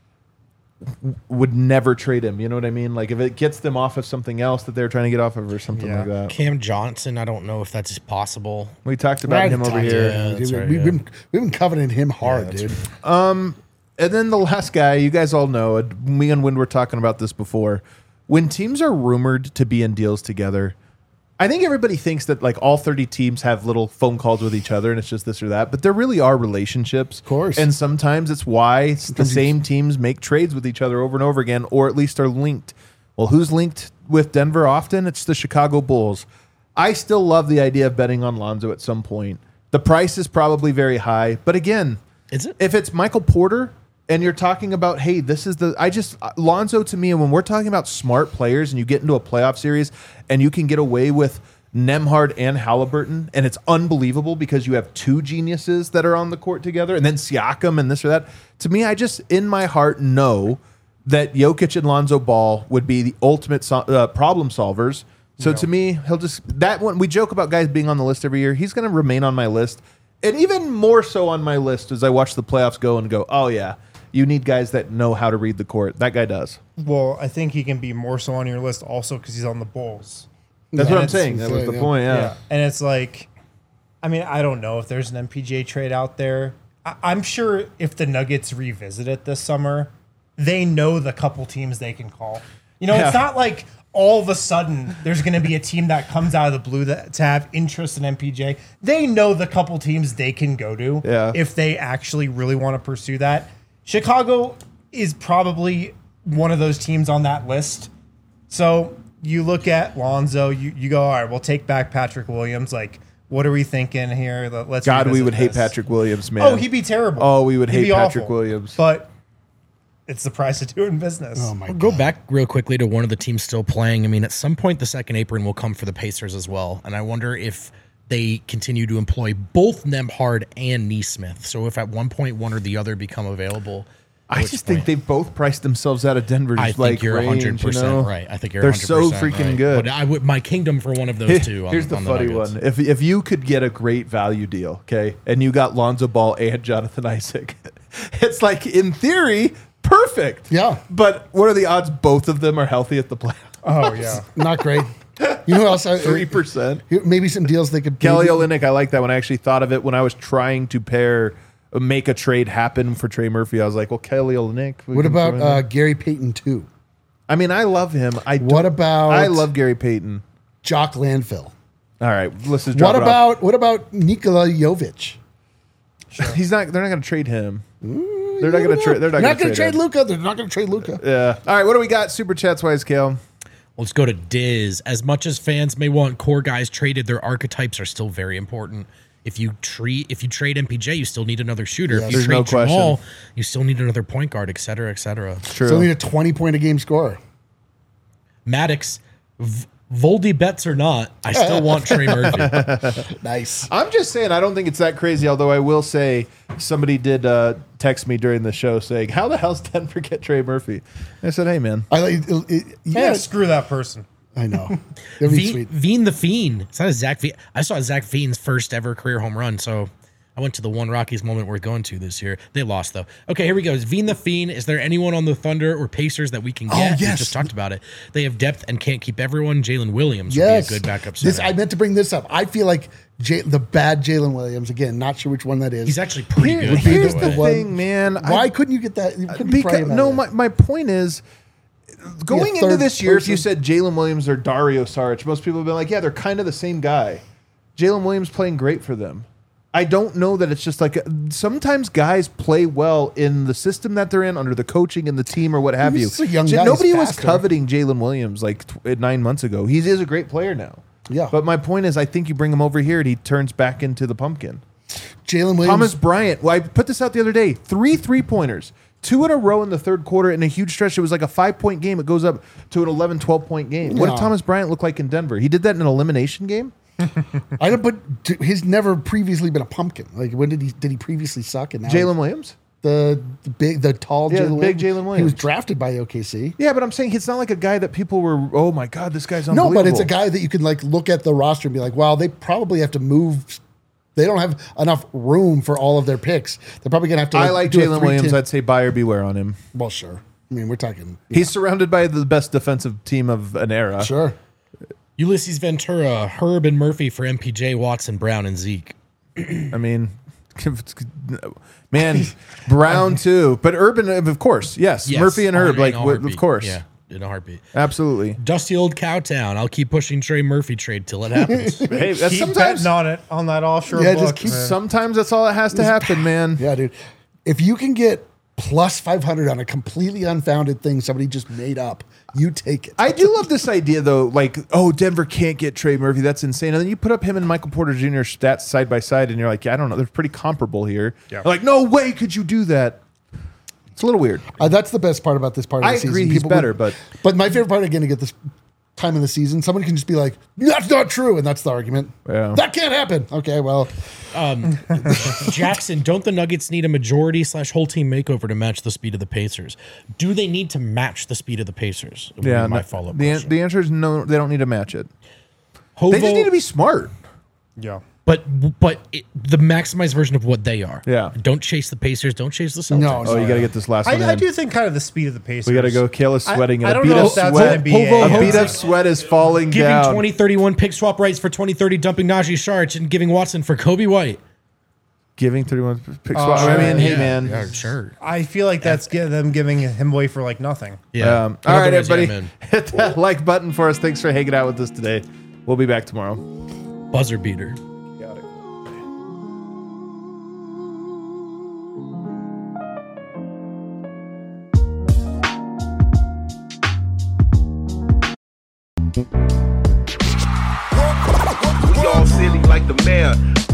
w- would never trade him. You know what I mean? Like if it gets them off of something else that they're trying to get off of or something Yeah. like that. Cam Johnson, I don't know if that's possible. We talked about Right, him over talked here. about it. that's Dude, right, we've, yeah. been, we've been coveting him hard, that's dude. And then the last guy, you guys all know it. Me and Wynn were talking about this before. When teams are rumored to be in deals together, I think everybody thinks that like all thirty teams have little phone calls with each other and it's just this or that. But there really are relationships. Of course. And sometimes it's why s- the Sometimes you- same teams make trades with each other over and over again, or at least are linked. Well, who's linked with Denver often? It's the Chicago Bulls. I still love the idea of betting on Lonzo at some point. The price is probably very high. But again, Is it? if it's Michael Porter and you're talking about, hey, this is the, I just, Lonzo to me, when we're talking about smart players and you get into a playoff series and you can get away with Nemhard and Halliburton, and it's unbelievable because you have two geniuses that are on the court together, and then Siakam and this or that. To me, I just, in my heart, know that Jokic and Lonzo Ball would be the ultimate so, uh, problem solvers. So to me, he'll just, that one, we joke about guys being on the list every year. He's going to remain on my list. And even more so on my list as I watch the playoffs go and go, oh, yeah, you need guys that know how to read the court. That guy does. well, I think he can be more so on your list also because he's on the Bulls. That's Yeah, what I'm it's- saying. That was the yeah. point, yeah. And it's like, I mean, I don't know if there's an M P J trade out there. I, I'm sure if the Nuggets revisit it this summer, they know the couple teams they can call. You know, Yeah. it's not like all of a sudden there's going to be a team that comes out of the blue that to have interest in M P J. They know the couple teams they can go to Yeah. if they actually really want to pursue that. Chicago is probably one of those teams on that list. So you look at Lonzo, you, you go, all right, we'll take back Patrick Williams. Like, what are we thinking here? Let- Let's God, we revisit would hate this. Patrick Williams, man. Oh, he'd be terrible. Oh, we would He'd hate be Patrick awful. Williams. But it's the price of doing business. Oh my I'll god. go back real quickly to one of the teams still playing. I mean, at some point, the second apron will come for the Pacers as well. And I wonder if they continue to employ both Nembhard and Neesmith. So if at one point one or the other become available, at I which just think point- they've both priced themselves out of Denver's I think like you're range, one hundred percent you know? right. I think you're They're one hundred so percent freaking right. good. But I would my kingdom for one of those two. Here's on, the on funny Nuggets. one. If if you could get a great value deal, okay, and you got Lonzo Ball and Jonathan Isaac, it's like in theory perfect. Yeah. But what are the odds both of them are healthy at the playoffs? Oh, yeah. Not great. You know who else? I- Three percent. Here, maybe some deals they could. Kelly maybe- Olynyk, I like that one. I actually thought of it when I was trying to pair, uh, make a trade happen for Trey Murphy. I was like, well, Kelly Olynyk. we What can about throw in uh, there. Gary Payton too? I mean, I love him. I What don't- about- I love Gary Payton. Jock Landfill. All right, let's just drop What it off. about what about Nikola Jovic? He's not. They're not going to trade him. They're not going to trade. They're not, They're not going to trade him. Luca. They're not going to trade Luca. Yeah. All right. What do we got? Super chats wise, Kale. Let's go to Diz. As much as fans may want core guys traded, their archetypes are still very important. If you treat if you trade M P J, you still need another shooter. If you There's trade no question. Jamal, you still need another point guard, et cetera, et cetera. True. So they need a twenty point a game scorer. Maddox, v- Voldy bets or not, I still want Trey Murphy. Nice. I'm just saying, I don't think it's that crazy. Although I will say, somebody did uh, text me during the show saying, "How the hell's Denver get Trey Murphy?" I said, "Hey, man, I like. It, it, Yeah, yeah, screw that person. I know. That'd be Veen, sweet. Veen the Fiend. It's not a Zach Veen. I saw Zach Veen's first ever career home run, so I went to the one Rockies moment worth going to this year. They lost though. Okay, here we go. Is Veen the Fiend? Is there anyone on the Thunder or Pacers that we can get? Oh, yes. We just talked about it. They have depth and can't keep everyone. Jalen Williams Yes, would be a good backup center. This I meant to bring this up. I feel like J, the bad Jalen Williams again. Not sure which one that is. He's actually pretty Here- good. by here's the the way. one- thing, man. I- Why couldn't you get that? You couldn't pray Because about no, that. my, my point is, going into third this year, if you person. said Jalen Williams or Dario Saric, most people have been like, yeah, they're kind of the same guy. Jalen Williams playing great for them. I don't know that it's just like sometimes guys play well in the system that they're in, under the coaching and the team or what have you. He's a young J- guy, Nobody he's was faster. coveting Jalen Williams like tw- nine months ago. He is a great player now. Yeah. But my point is, I think you bring him over here and he turns back into the pumpkin. Jalen Williams. Thomas Bryant. Well, I put this out the other day. Three three pointers, two in a row in the third quarter in a huge stretch. It was like a five point game. It goes up to an eleven, twelve point game. What No. did Thomas Bryant look like in Denver? He did that in an elimination game. I don't. But t- he's never previously been a pumpkin. Like when did he? Did he previously suck? And now Jalen Williams. the, the big, the tall Yeah, Jalen the big Williams. Jalen He was Williams. drafted by O K C. Yeah, but I'm saying it's not like a guy that people were. Oh my God, this guy's No, unbelievable. but it's a guy that you can like look at the roster and be like, wow, they probably have to move. They don't have enough room for all of their picks. They're probably gonna have to. I like do a Jalen three Williams. ten I'd say buyer beware on him. Well, sure. I mean, we're talking. He's surrounded by the best defensive team of an era. Sure. Ulysses Ventura, Herb and Murphy for M P J, Watson, Brown, and Zeke. I mean, man, Brown too, but Urban, of course, yes, Yes, Murphy and in Herb, a like w- heartbeat. of course, Yeah, in a heartbeat. absolutely. Dusty old Cowtown. I'll keep pushing Trey Murphy trade till it happens. Hey, that's Keep sometimes betting on it on that offshore Yeah, book. just keep- man. sometimes that's all that has to happen, man. Yeah, dude. If you can get plus five hundred on a completely unfounded thing somebody just made up, you take it. I do love this idea though, like, oh, Denver can't get Trey Murphy. That's insane. And then you put up him and Michael Porter Junior stats side by side, and you're like, yeah, I don't know, they're pretty comparable here. Yeah. Like, no way could you do that. It's a little weird. Uh, that's the best part about this part of I the season. agree he's People better, would- but But my favorite part, again, to get this time in the season, someone can just be like, that's not true. And that's the argument. Yeah. That can't happen. Okay, well, Jackson, don't the Nuggets need a majority slash whole team makeover to match the speed of the Pacers? Do they need to match the speed of the Pacers? Would be yeah, my no- follow up the, an- question. the answer is no. They don't need to match it. Hovo, They just need to be smart. Yeah. but but it, the maximized version of what they are. Yeah. Don't chase the Pacers. Don't chase the Celtics. No, Oh, you got to get this last one I, I in. do think kind of the speed of the Pacers. We got to go. Kayla's sweating. I, I and a don't beat know of if that's sweat. N B A. Hovo- A beat Hovo- of sweat is falling Giving down. twenty thirty-one pick swap rights for twenty thirty, dumping Najee Sharch and giving Watson for Kobe White. Giving thirty-one pick Oh, swap. I mean, hey yeah, man. yeah, sure. I feel like that's gi- them giving him away for like nothing. Yeah. Um, all right, Otherwise, yeah, everybody, man. hit that like button for us. Thanks for hanging out with us today. We'll be back tomorrow. Buzzer beater. Got it. We all silly like the mayor.